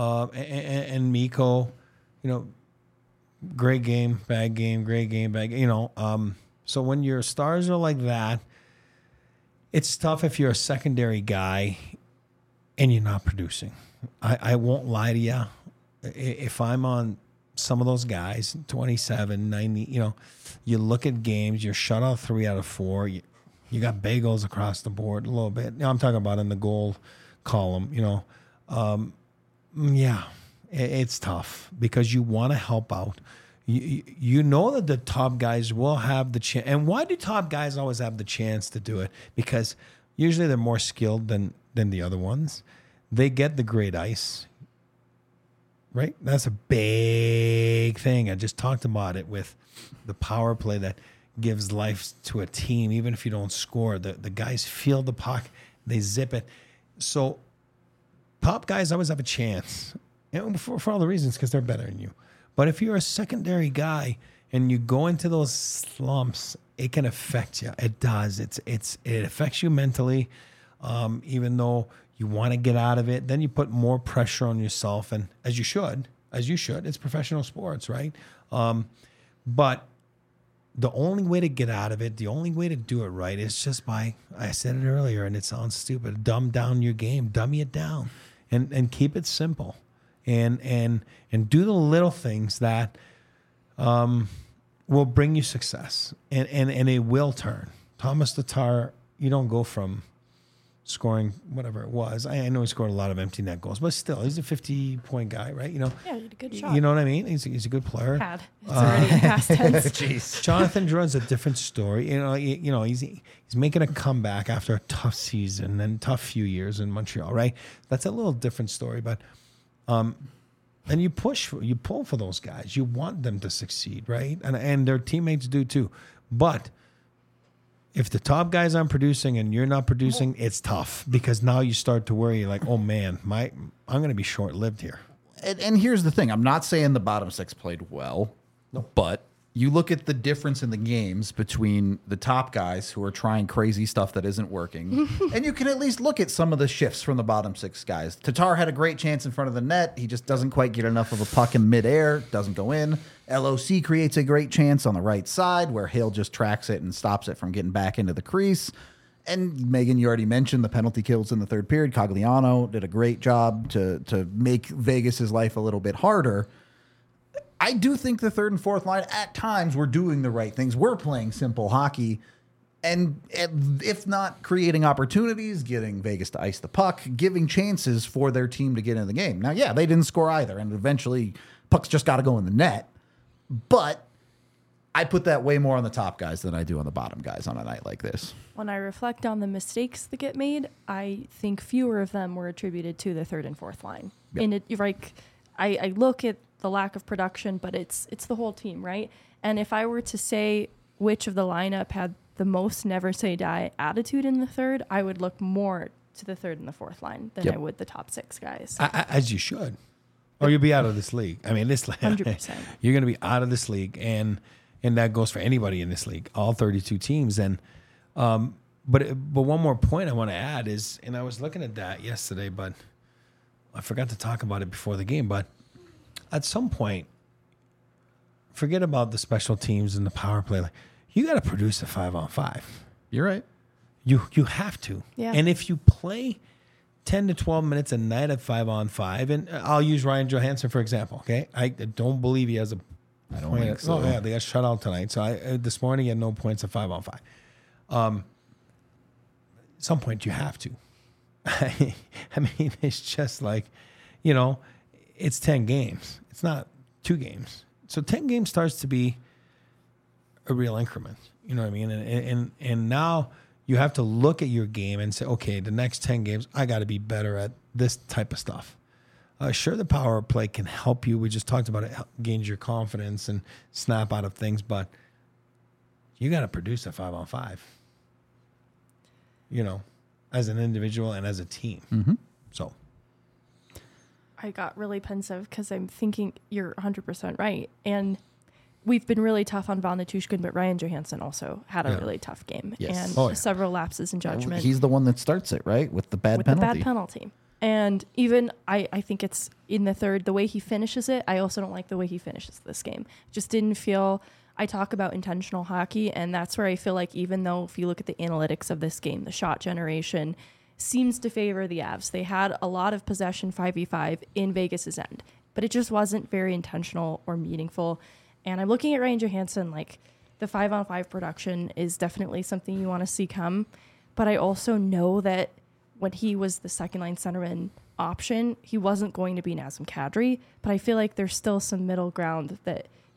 And Mikko, you know, great game, bad game, great game, bad game. You know, so when your stars are like that, it's tough if you're a secondary guy and you're not producing. I won't lie to you. If I'm on some of those guys, 27, 90, you know, you look at games, you're shut out 3 out of 4. You got bagels across the board a little bit. Now I'm talking about in the goal column, you know. It's tough because you want to help out. you know that the top guys will have the chance. And why do top guys always have the chance to do it? Because usually they're more skilled than the other ones. They get the great ice, right? That's a big thing. I just talked about it with the power play that gives life to a team, even if you don't score. The guys feel the puck, they zip it. So top guys always have a chance, and for all the reasons, because they're better than you. But if you're a secondary guy and you go into those slumps, it can affect you. It does. It affects you mentally, even though you want to get out of it. Then you put more pressure on yourself, and as you should. It's professional sports, right? But the only way to get out of it, the only way to do it right is just by, I said it earlier, and it sounds stupid, dumb down your game, dummy it down, and keep it simple. And do the little things that will bring you success, and it will turn. Thomas Tatar, you don't go from scoring whatever it was. I know he scored a lot of empty net goals, but still, he's a 50-point guy, right? You know, Yeah, he did a good shot. you know what I mean. He's a good player. Had. It's already past tense. Jeez. Jonathan Drouin's a different story. You know, he's making a comeback after a tough season and tough few years in Montreal, right? That's a little different story, but and you pull for those guys. You want them to succeed, right? And their teammates do too. But if the top guys aren't producing and you're not producing, it's tough, because now you start to worry, like, oh man, I'm going to be short-lived here. And here's the thing. I'm not saying the bottom six played well, but you look at the difference in the games between the top guys who are trying crazy stuff that isn't working, and you can at least look at some of the shifts from the bottom six guys. Tatar had a great chance in front of the net. He just doesn't quite get enough of a puck in midair, doesn't go in. LOC creates a great chance on the right side where Hale just tracks it and stops it from getting back into the crease. And Megan, you already mentioned the penalty kills in the third period. Cogliano did a great job to make Vegas's life a little bit harder. I do think the third and fourth line at times were doing the right things. We're playing simple hockey, and if not creating opportunities, getting Vegas to ice the puck, giving chances for their team to get in the game. Now, yeah, they didn't score either, and eventually pucks just got to go in the net. But I put that way more on the top guys than I do on the bottom guys on a night like this. When I reflect on the mistakes that get made, I think fewer of them were attributed to the third and fourth line. Yep. And I look at the lack of production, but it's the whole team, right? And if I were to say which of the lineup had the most never say die attitude in the third, I would look more to the third and the fourth line than I would the top six guys. As you should, or you'll be out of this league. I mean, this 100%. You're going to be out of this league, and that goes for anybody in this league, all 32 teams. And but one more point I want to add is, and I was looking at that yesterday, but I forgot to talk about it before the game. But at some point, forget about the special teams and the power play. Like, you got to produce a 5-on-5. You're right. You have to. Yeah. And if you play 10 to 12 minutes a night at 5-on-5, and I'll use Ryan Johansson for example. Okay, I don't believe he has a. I don't think so. Oh yeah, they got shut out tonight. So this morning he had no points at 5-on-5. At some point you have to. I mean, it's just like, it's 10 games. It's not 2 games. So 10 games starts to be a real increment. You know what I mean? And now you have to look at your game and say, okay, the next 10 games, I got to be better at this type of stuff. Sure, the power play can help you. We just talked about it, gains your confidence and snap out of things, but you got to produce a 5-on-5, as an individual and as a team. Mm-hmm. So I got really pensive because I'm thinking you're 100% right. And we've been really tough on Van Natushkin, but Ryan Johansson also had a really tough game. Yes. And several lapses in judgment. He's the one that starts it, right? With the bad penalty. And even I think it's in the third, the way he finishes it, I also don't like the way he finishes this game. Just didn't feel, I talk about intentional hockey, and that's where I feel like even though if you look at the analytics of this game, the shot generation seems to favor the Avs. They had a lot of possession 5v5 in Vegas's end, but it just wasn't very intentional or meaningful. And I'm looking at Ryan Johansson, like the 5-on-5 production is definitely something you want to see come. But I also know that when he was the second line centerman option, he wasn't going to be Nazem Kadri, but I feel like there's still some middle ground that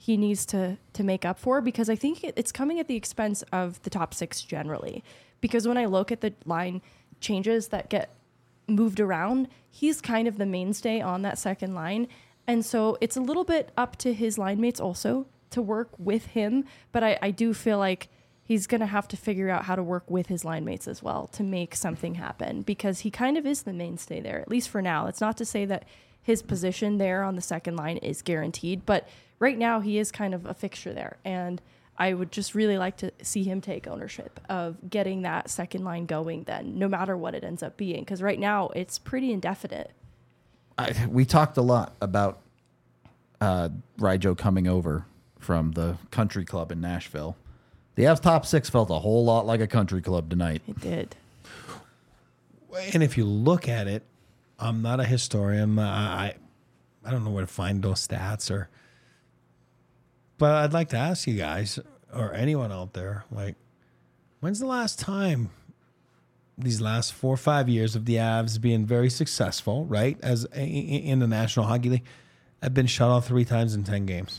he needs to make up for, because I think it's coming at the expense of the top 6 generally. Because when I look at the line changes that get moved around, he's kind of the mainstay on that second line. And so it's a little bit up to his line mates also to work with him. But I do feel like he's going to have to figure out how to work with his line mates as well to make something happen, because he kind of is the mainstay there, at least for now. It's not to say that his position there on the second line is guaranteed, but right now he is kind of a fixture there. And I would just really like to see him take ownership of getting that second line going then, no matter what it ends up being, because right now it's pretty indefinite. We talked a lot about Ryjo coming over from the country club in Nashville. The Avs top 6 felt a whole lot like a country club tonight. It did. And if you look at it, I'm not a historian. I don't know where to find those stats, but I'd like to ask you guys or anyone out there, like, when's the last time these last 4 or 5 years of the Avs being very successful, right, as in the National Hockey League, have been shut out 3 times in 10 games?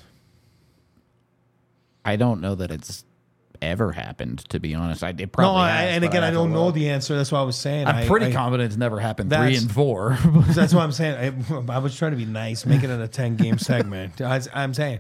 I don't know that it's ever happened, to be honest. It probably has, and again, I don't know the answer. That's what I was saying. I'm pretty confident it's never happened 3 and 4. That's what I'm saying. I was trying to be nice, make it a 10-game segment. I'm saying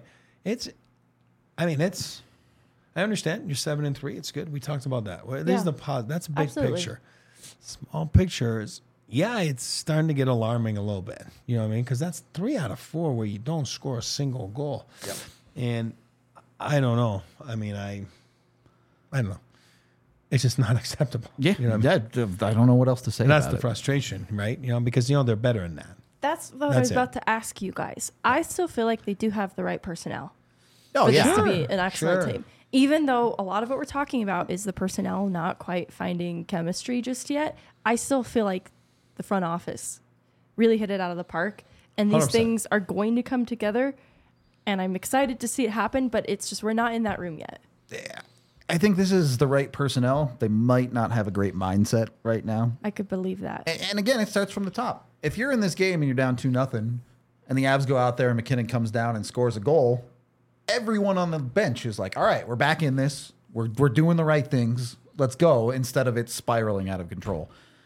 I understand you're 7-3. It's good. We talked about that. There's the pause. That's a big Absolutely. picture. Small picture is, it's starting to get alarming a little bit. You know what I mean? Because that's 3 out of 4 where you don't score a single goal. Yep. And I don't know. I mean, I don't know. It's just not acceptable. Yeah, you know what I mean? I don't know what else to say. That's about the it. frustration, right? Because they're better than that. That's what I was about to ask you guys. I still feel like they do have the right personnel Oh for yeah, this to be an excellent Sure. team. Even though a lot of what we're talking about is the personnel not quite finding chemistry just yet, I still feel like the front office really hit it out of the park. And these 100%. things are going to come together. And I'm excited to see it happen, but it's just we're not in that room yet. I think this is the right personnel. They might not have a great mindset right now. I could believe that. And again, it starts from the top. If you're in this game and you're down 2-0, and the Avs go out there and McKinnon comes down and scores a goal, everyone on the bench is like, all right, we're back in this. We're doing the right things. Let's go, instead of it spiraling out of control.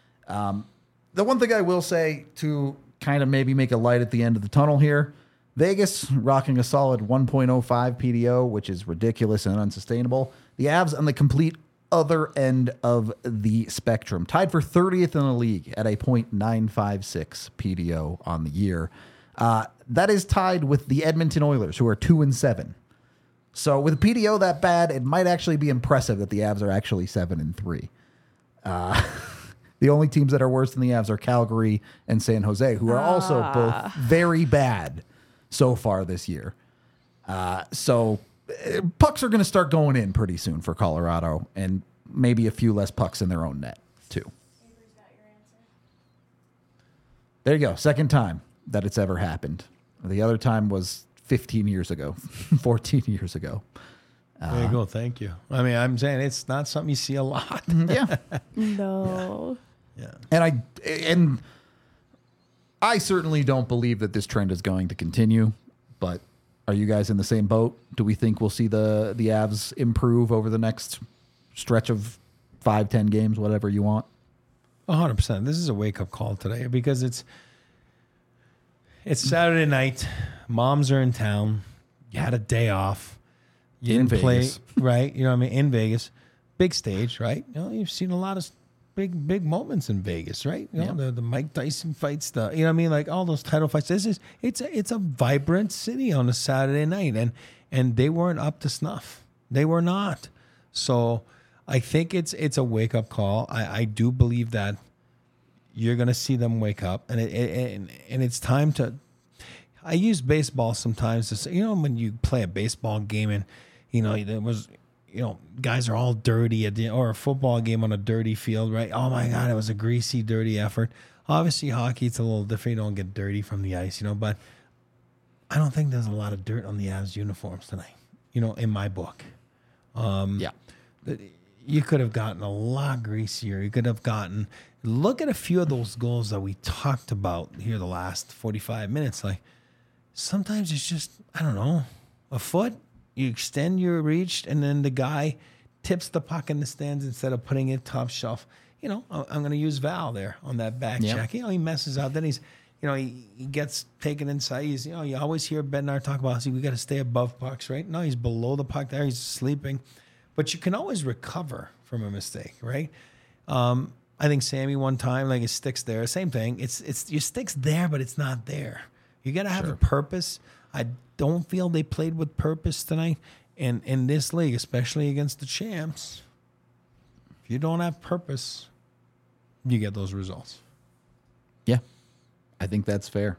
The one thing I will say to kind of maybe make a light at the end of the tunnel here, Vegas rocking a solid 1.05 PDO, which is ridiculous and unsustainable. The Avs on the complete other end of the spectrum, tied for 30th in the league at a .956 PDO on the year. That is tied with the Edmonton Oilers, who are 2-7. So with a PDO that bad, it might actually be impressive that the Avs are actually 7-3. The only teams that are worse than the Avs are Calgary and San Jose, who are also both very bad so far this year. So pucks are going to start going in pretty soon for Colorado, and maybe a few less pucks in their own net, too. There you go. Second time that it's ever happened. The other time was 15 years ago, 14 years ago. There you go. Thank you. I mean, I'm saying it's not something you see a lot. Yeah. No. Yeah. And I certainly don't believe that this trend is going to continue, but are you guys in the same boat? Do we think we'll see the Avs improve over the next stretch of 5-10 games, whatever you want? 100%. This is a wake-up call today because it's Saturday night. Moms are in town. You had a day off. You In didn't play, Vegas. right? You know what I mean? In Vegas. Big stage, right? You know, you've seen a lot of big moments in Vegas, right? You know, the Mike Tyson fights, you know what I mean? Like all those title fights. It's a vibrant city on a Saturday night, and they weren't up to snuff. They were not. So I think it's a wake-up call. I do believe that you're going to see them wake up, and it's time to. I use baseball sometimes to say, you know, when you play a baseball game and, you know, there was, you know, guys are all dirty or a football game on a dirty field, right? Oh my God, it was a greasy, dirty effort. Obviously, hockey, it's a little different. You don't get dirty from the ice, you know, but I don't think there's a lot of dirt on the Avs uniforms tonight, you know, in my book. Yeah. You could have gotten a lot greasier. You could have gotten, look at a few of those goals that we talked about here the last 45 minutes. Like, sometimes it's just, I don't know. a foot, you extend your reach, and then the guy tips the puck in the stands instead of putting it top shelf. You know, I'm going to use Val there on that back check. You know, he messes up. Then he's, you know, he gets taken inside. He's, you know, you always hear Bednar talk about, see, we got to stay above pucks, right? No, he's below the puck there. He's sleeping. But you can always recover from a mistake, right? I think Sammy one time, like his stick's there. Same thing. It's your stick's there, but it's not there. You got to have a purpose. I don't feel they played with purpose tonight. And in this league, especially against the champs, if you don't have purpose, you get those results. Yeah, I think that's fair.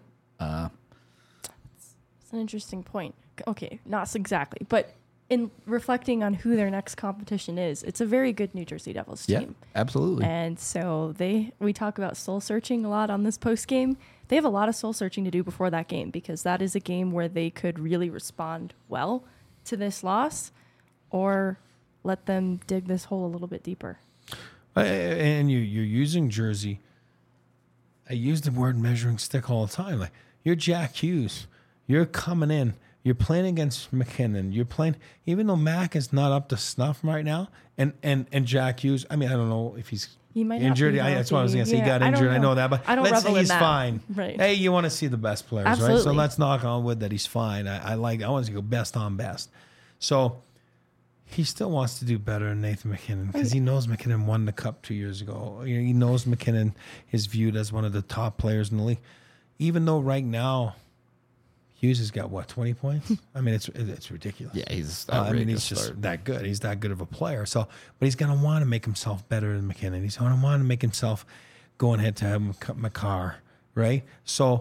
It's an interesting point. Okay, not exactly, but in reflecting on who their next competition is, it's a very good New Jersey Devils team. Yeah, absolutely. And so we talk about soul searching a lot on this post game. They have a lot of soul searching to do before that game, because that is a game where they could really respond well to this loss, or let them dig this hole a little bit deeper. And you're using Jersey. I use the word measuring stick all the time. Like, you're Jack Hughes. You're coming in. You're playing against McKinnon. You're playing, even though Mac is not up to snuff right now, and Jack Hughes, I mean, I don't know if he might injured. That's what I was going to say. He got injured. I know that, but let's say he's fine. Right. Hey, you want to see the best players, Absolutely. right? So let's knock on wood that he's fine. I want to go best on best. So he still wants to do better than Nathan McKinnon, because he knows McKinnon won the cup 2 years ago. You know, he knows McKinnon is viewed as one of the top players in the league, even though right now Hughes has got, what, 20 points? I mean, it's ridiculous. Yeah, he's he's just that good. He's that good of a player. So, but he's going to want to make himself better than McKinnon. He's going to want to make himself going head to head with Makar, right? So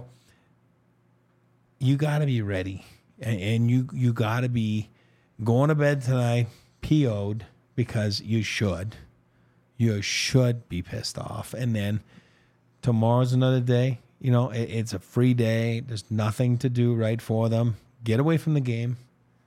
you got to be ready, and you got to be going to bed tonight PO'd, because you should be pissed off. And then tomorrow's another day. You know, it's a free day. There's nothing to do right for them. Get away from the game.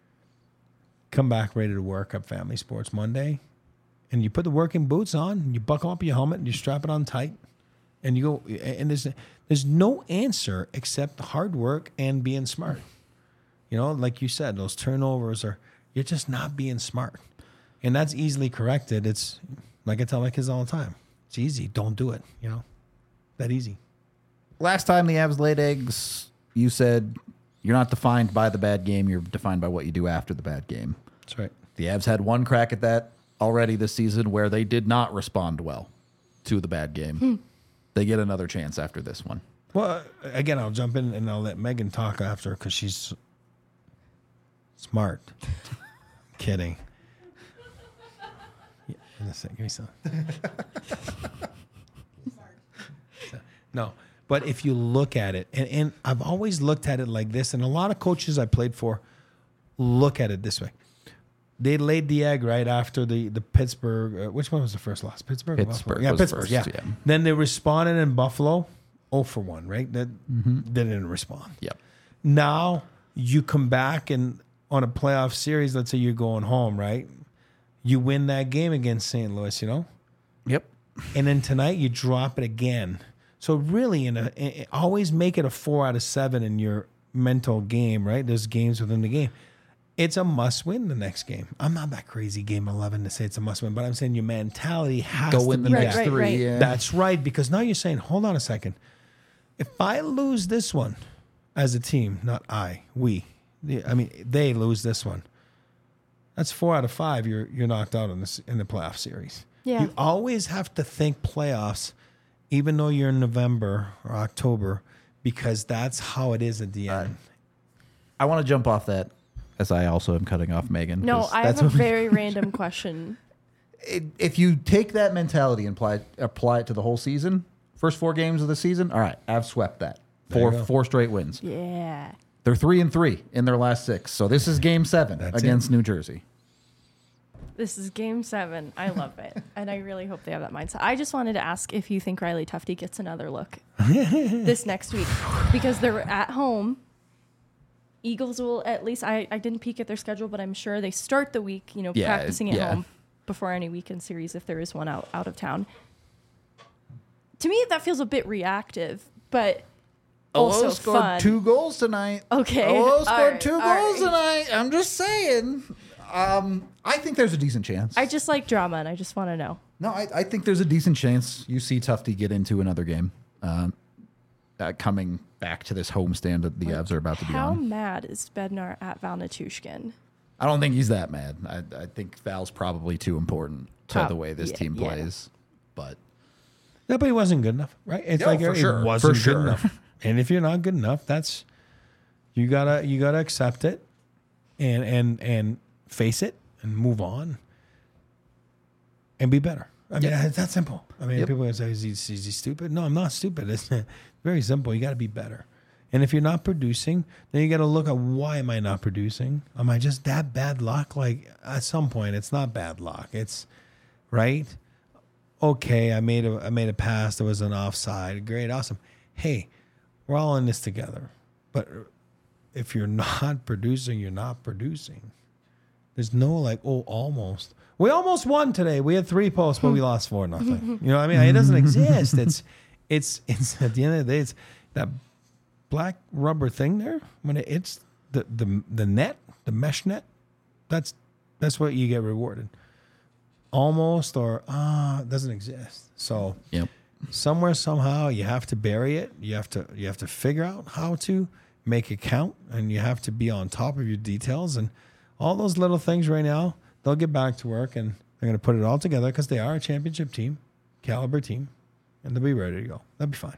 Come back ready to work at Family Sports Monday. And you put the working boots on, and you buckle up your helmet, and you strap it on tight. And you go, and there's no answer except hard work and being smart. You know, like you said, those turnovers you're just not being smart. And that's easily corrected. It's like I tell my kids all the time. It's easy. Don't do it. You know, that easy. Last time the Avs laid eggs, you said you're not defined by the bad game. You're defined by what you do after the bad game. That's right. The Avs had one crack at that already this season, where they did not respond well to the bad game. They get another chance after this one. Well, again, I'll jump in and I'll let Megan talk after, because she's smart. Kidding. Yeah, give me some. No. But if you look at it, and I've always looked at it like this, and a lot of coaches I played for look at it this way. They laid the egg right after the Pittsburgh. Which one was the first loss? Pittsburgh? Pittsburgh. Yeah, Pittsburgh. First, yeah. yeah. Then they responded in Buffalo, 0-for-1, right? They didn't respond. Yep. Now you come back and on a playoff series, let's say you're going home, right? You win that game against St. Louis, you know? Yep. And then tonight you drop it again. So really, always make it a 4 out of 7 in your mental game, right? There's games within the game. It's a must-win the next game. I'm not that crazy game 11 to say it's a must-win, but I'm saying your mentality has Go to win the be next that. three. Right. Yeah. That's right, because now you're saying, hold on a second. If I lose this one as a team, not we. I mean, they lose this one. That's 4 out of 5. You're knocked out in the playoff series. Yeah. You always have to think playoffs, even though you're in November or October, because that's how it is at the end. I want to jump off that, as I also am cutting off Megan. No, 'cause I that's have a what- very random question. If you take that mentality and apply it to the whole season, first 4 games of the season, all right, I've swept that. There you go. Four straight wins. Yeah. They're 3-3 in their last 6. So this is game 7 That's against New Jersey. This is game 7. I love it. And I really hope they have that mindset. I just wanted to ask if you think Riley Tufte gets another look this next week, because they're at home. Eagles will, at least, I didn't peek at their schedule, but I'm sure they start the week, practicing at home before any weekend series, if there is one out of town. To me, that feels a bit reactive, but also scored fun. 2 goals tonight. Okay. Oh, scored All right, 2 all goals right. tonight. I'm just saying. I think there's a decent chance. I just like drama, and I just want to know. No, I think there's a decent chance you see Tufty get into another game coming back to this homestand that the Avs are about to be How on. mad is Bednar at Val Nichushkin? I don't think he's that mad. I think Val's probably too important to the way this team plays. But No, but he wasn't good enough, right? It's No, like for it sure. wasn't For sure. good enough. And if you're not good enough, that's you gotta accept it and face it and move on and be better. I mean, it's that simple. I mean, people are gonna say, is he stupid? No, I'm not stupid. It's very simple. You got to be better. And if you're not producing, then you got to look at why am I not producing? Am I just that bad luck? Like at some point, it's not bad luck. It's right. Okay, I made a pass that was an offside. Great, awesome. Hey, we're all in this together. But if you're not producing, you're not producing. There's no like, oh, almost. We almost won today. We had 3 posts, but we lost 4-0. You know what I mean? It doesn't exist. It's at the end of the day, it's that black rubber thing there. When it's the net, the mesh net, that's what you get rewarded. Almost or it doesn't exist. So somewhere, somehow, you have to bury it. You have to figure out how to make it count, and you have to be on top of your details and all those little things right now. They'll get back to work, and they're going to put it all together because they are a championship team, caliber team, and they'll be ready to go. They'll be fine.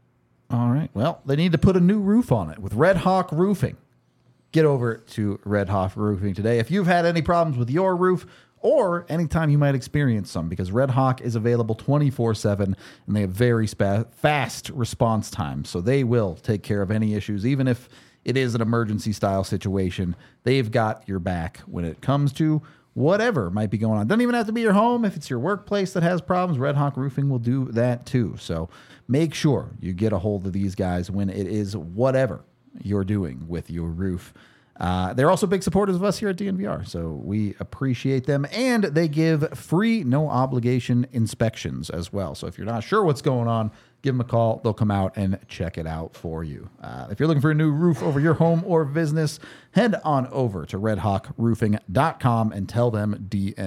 all right. Well, they need to put a new roof on it with Red Hawk Roofing. Get over to Red Hawk Roofing today. If you've had any problems with your roof or anytime you might experience some, because Red Hawk is available 24/7 and they have very fast response times. So they will take care of any issues, even if it is an emergency style situation. They've got your back when it comes to whatever might be going on. Doesn't even have to be your home. If it's your workplace that has problems, Red Hawk Roofing will do that too. So make sure you get a hold of these guys when it is whatever you're doing with your roof. They're also big supporters of us here at DNVR, so we appreciate them. And they give free, no obligation inspections as well. So if you're not sure what's going on, give them a call. They'll come out and check it out for you. If you're looking for a new roof over your home or business, head on over to redhawkroofing.com and tell them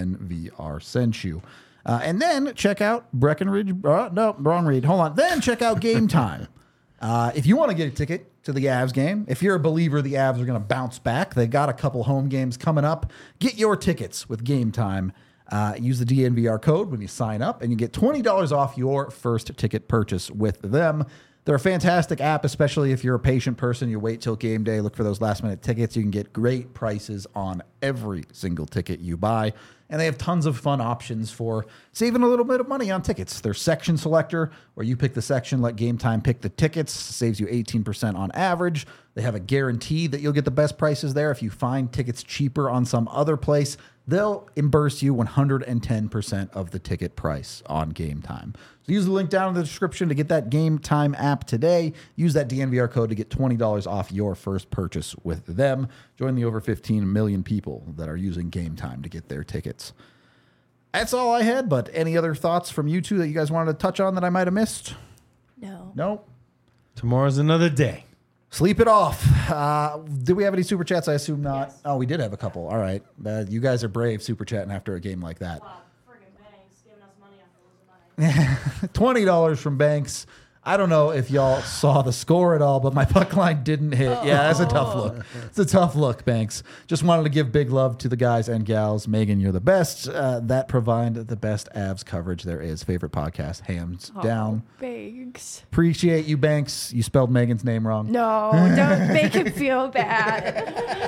DNVR sent you. And then check out Breckenridge. No, wrong read. Hold on. Then check out Game Time. If you want to get a ticket to the Avs game, if you're a believer the Avs are going to bounce back, they got a couple home games coming up. Get your tickets with Game Time. Use the DNVR code when you sign up, and you get $20 off your first ticket purchase with them. They're a fantastic app, especially if you're a patient person. You wait till game day, look for those last-minute tickets. You can get great prices on every single ticket you buy. And they have tons of fun options for saving a little bit of money on tickets. Their section selector, where you pick the section, let Game Time pick the tickets, saves you 18% on average. They have a guarantee that you'll get the best prices there. If you find tickets cheaper on some other place, they'll reimburse you 110% of the ticket price on Game Time. So use the link down in the description to get that Game Time app today. Use that DNVR code to get $20 off your first purchase with them. Join the over 15 million people that are using Game Time to get their tickets. That's all I had, but any other thoughts from you two that you guys wanted to touch on that I might have missed? No. Nope. Tomorrow's another day. Sleep it off. Did we have any super chats? I assume not. Yes. Oh, we did have a couple. All right. You guys are brave super chatting after a game like that. Wow, friggin' Banks giving us money after losing money. $20 from Banks. I don't know if y'all saw the score at all, but my puck line didn't hit. Yeah, that's a tough look. It's a tough look, Banks. Just wanted to give big love to the guys and gals. Megan, you're the best. That provide the best Avs coverage there is. Favorite podcast, hands down. Banks. Appreciate you, Banks. You spelled Megan's name wrong. No, don't make him feel bad.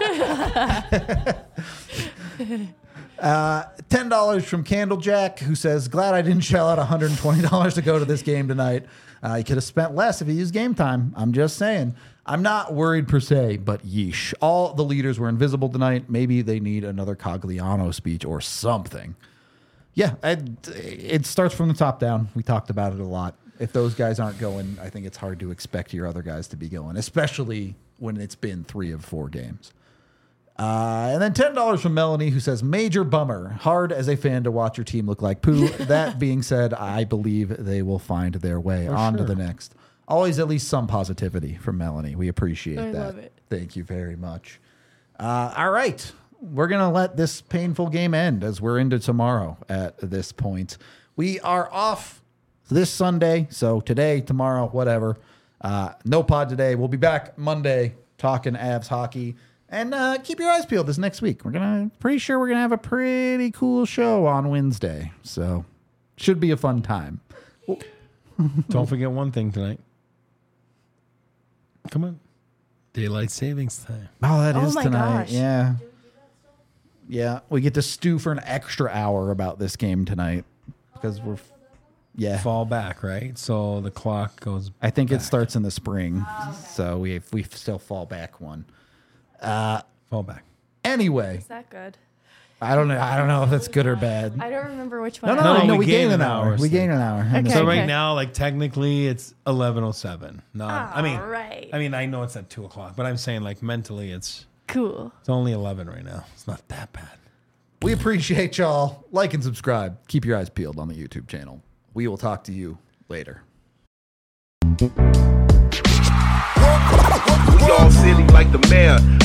$10 from Candlejack, who says, glad I didn't shell out $120 to go to this game tonight. You could have spent less if you used Game Time. I'm just saying. I'm not worried per se, but yeesh. All the leaders were invisible tonight. Maybe they need another Cogliano speech or something. Yeah, it starts from the top down. We talked about it a lot. If those guys aren't going, I think it's hard to expect your other guys to be going, especially when it's been 3 of 4 games. And then $10 from Melanie, who says, major bummer. Hard as a fan to watch your team look like poo. That being said, I believe they will find their way on to the next always at least some positivity from Melanie. We appreciate I that. love it. Thank you very much. All right. We're going to let this painful game end as we're into tomorrow at this point. We are off this Sunday. So today, tomorrow, whatever. No pod today. We'll be back Monday talking Avs hockey. And keep your eyes peeled this next week. Pretty sure we're going to have a pretty cool show on Wednesday. So should be a fun time. Don't forget one thing tonight. Come on. Daylight savings time. Oh, that Oh is my tonight. gosh. Yeah. Yeah. We get to stew for an extra hour about this game tonight because we're, yeah. Fall back, right? So the clock goes. I think it starts in the spring. So we still fall back one. Fall back. Anyway, Is that good? I don't know if that's good or bad. I don't remember which one. No, we we gained gained an an hour. hour, We so- gained an hour. Okay. So right now, like technically, it's 11:07. Not. Alright. I mean, I know it's at 2:00, but I'm saying like mentally, it's Cool. only 11 right now. It's not that bad. We appreciate y'all. Like and subscribe. Keep your eyes peeled on the YouTube channel. We will talk to you later. We all silly like the mayor.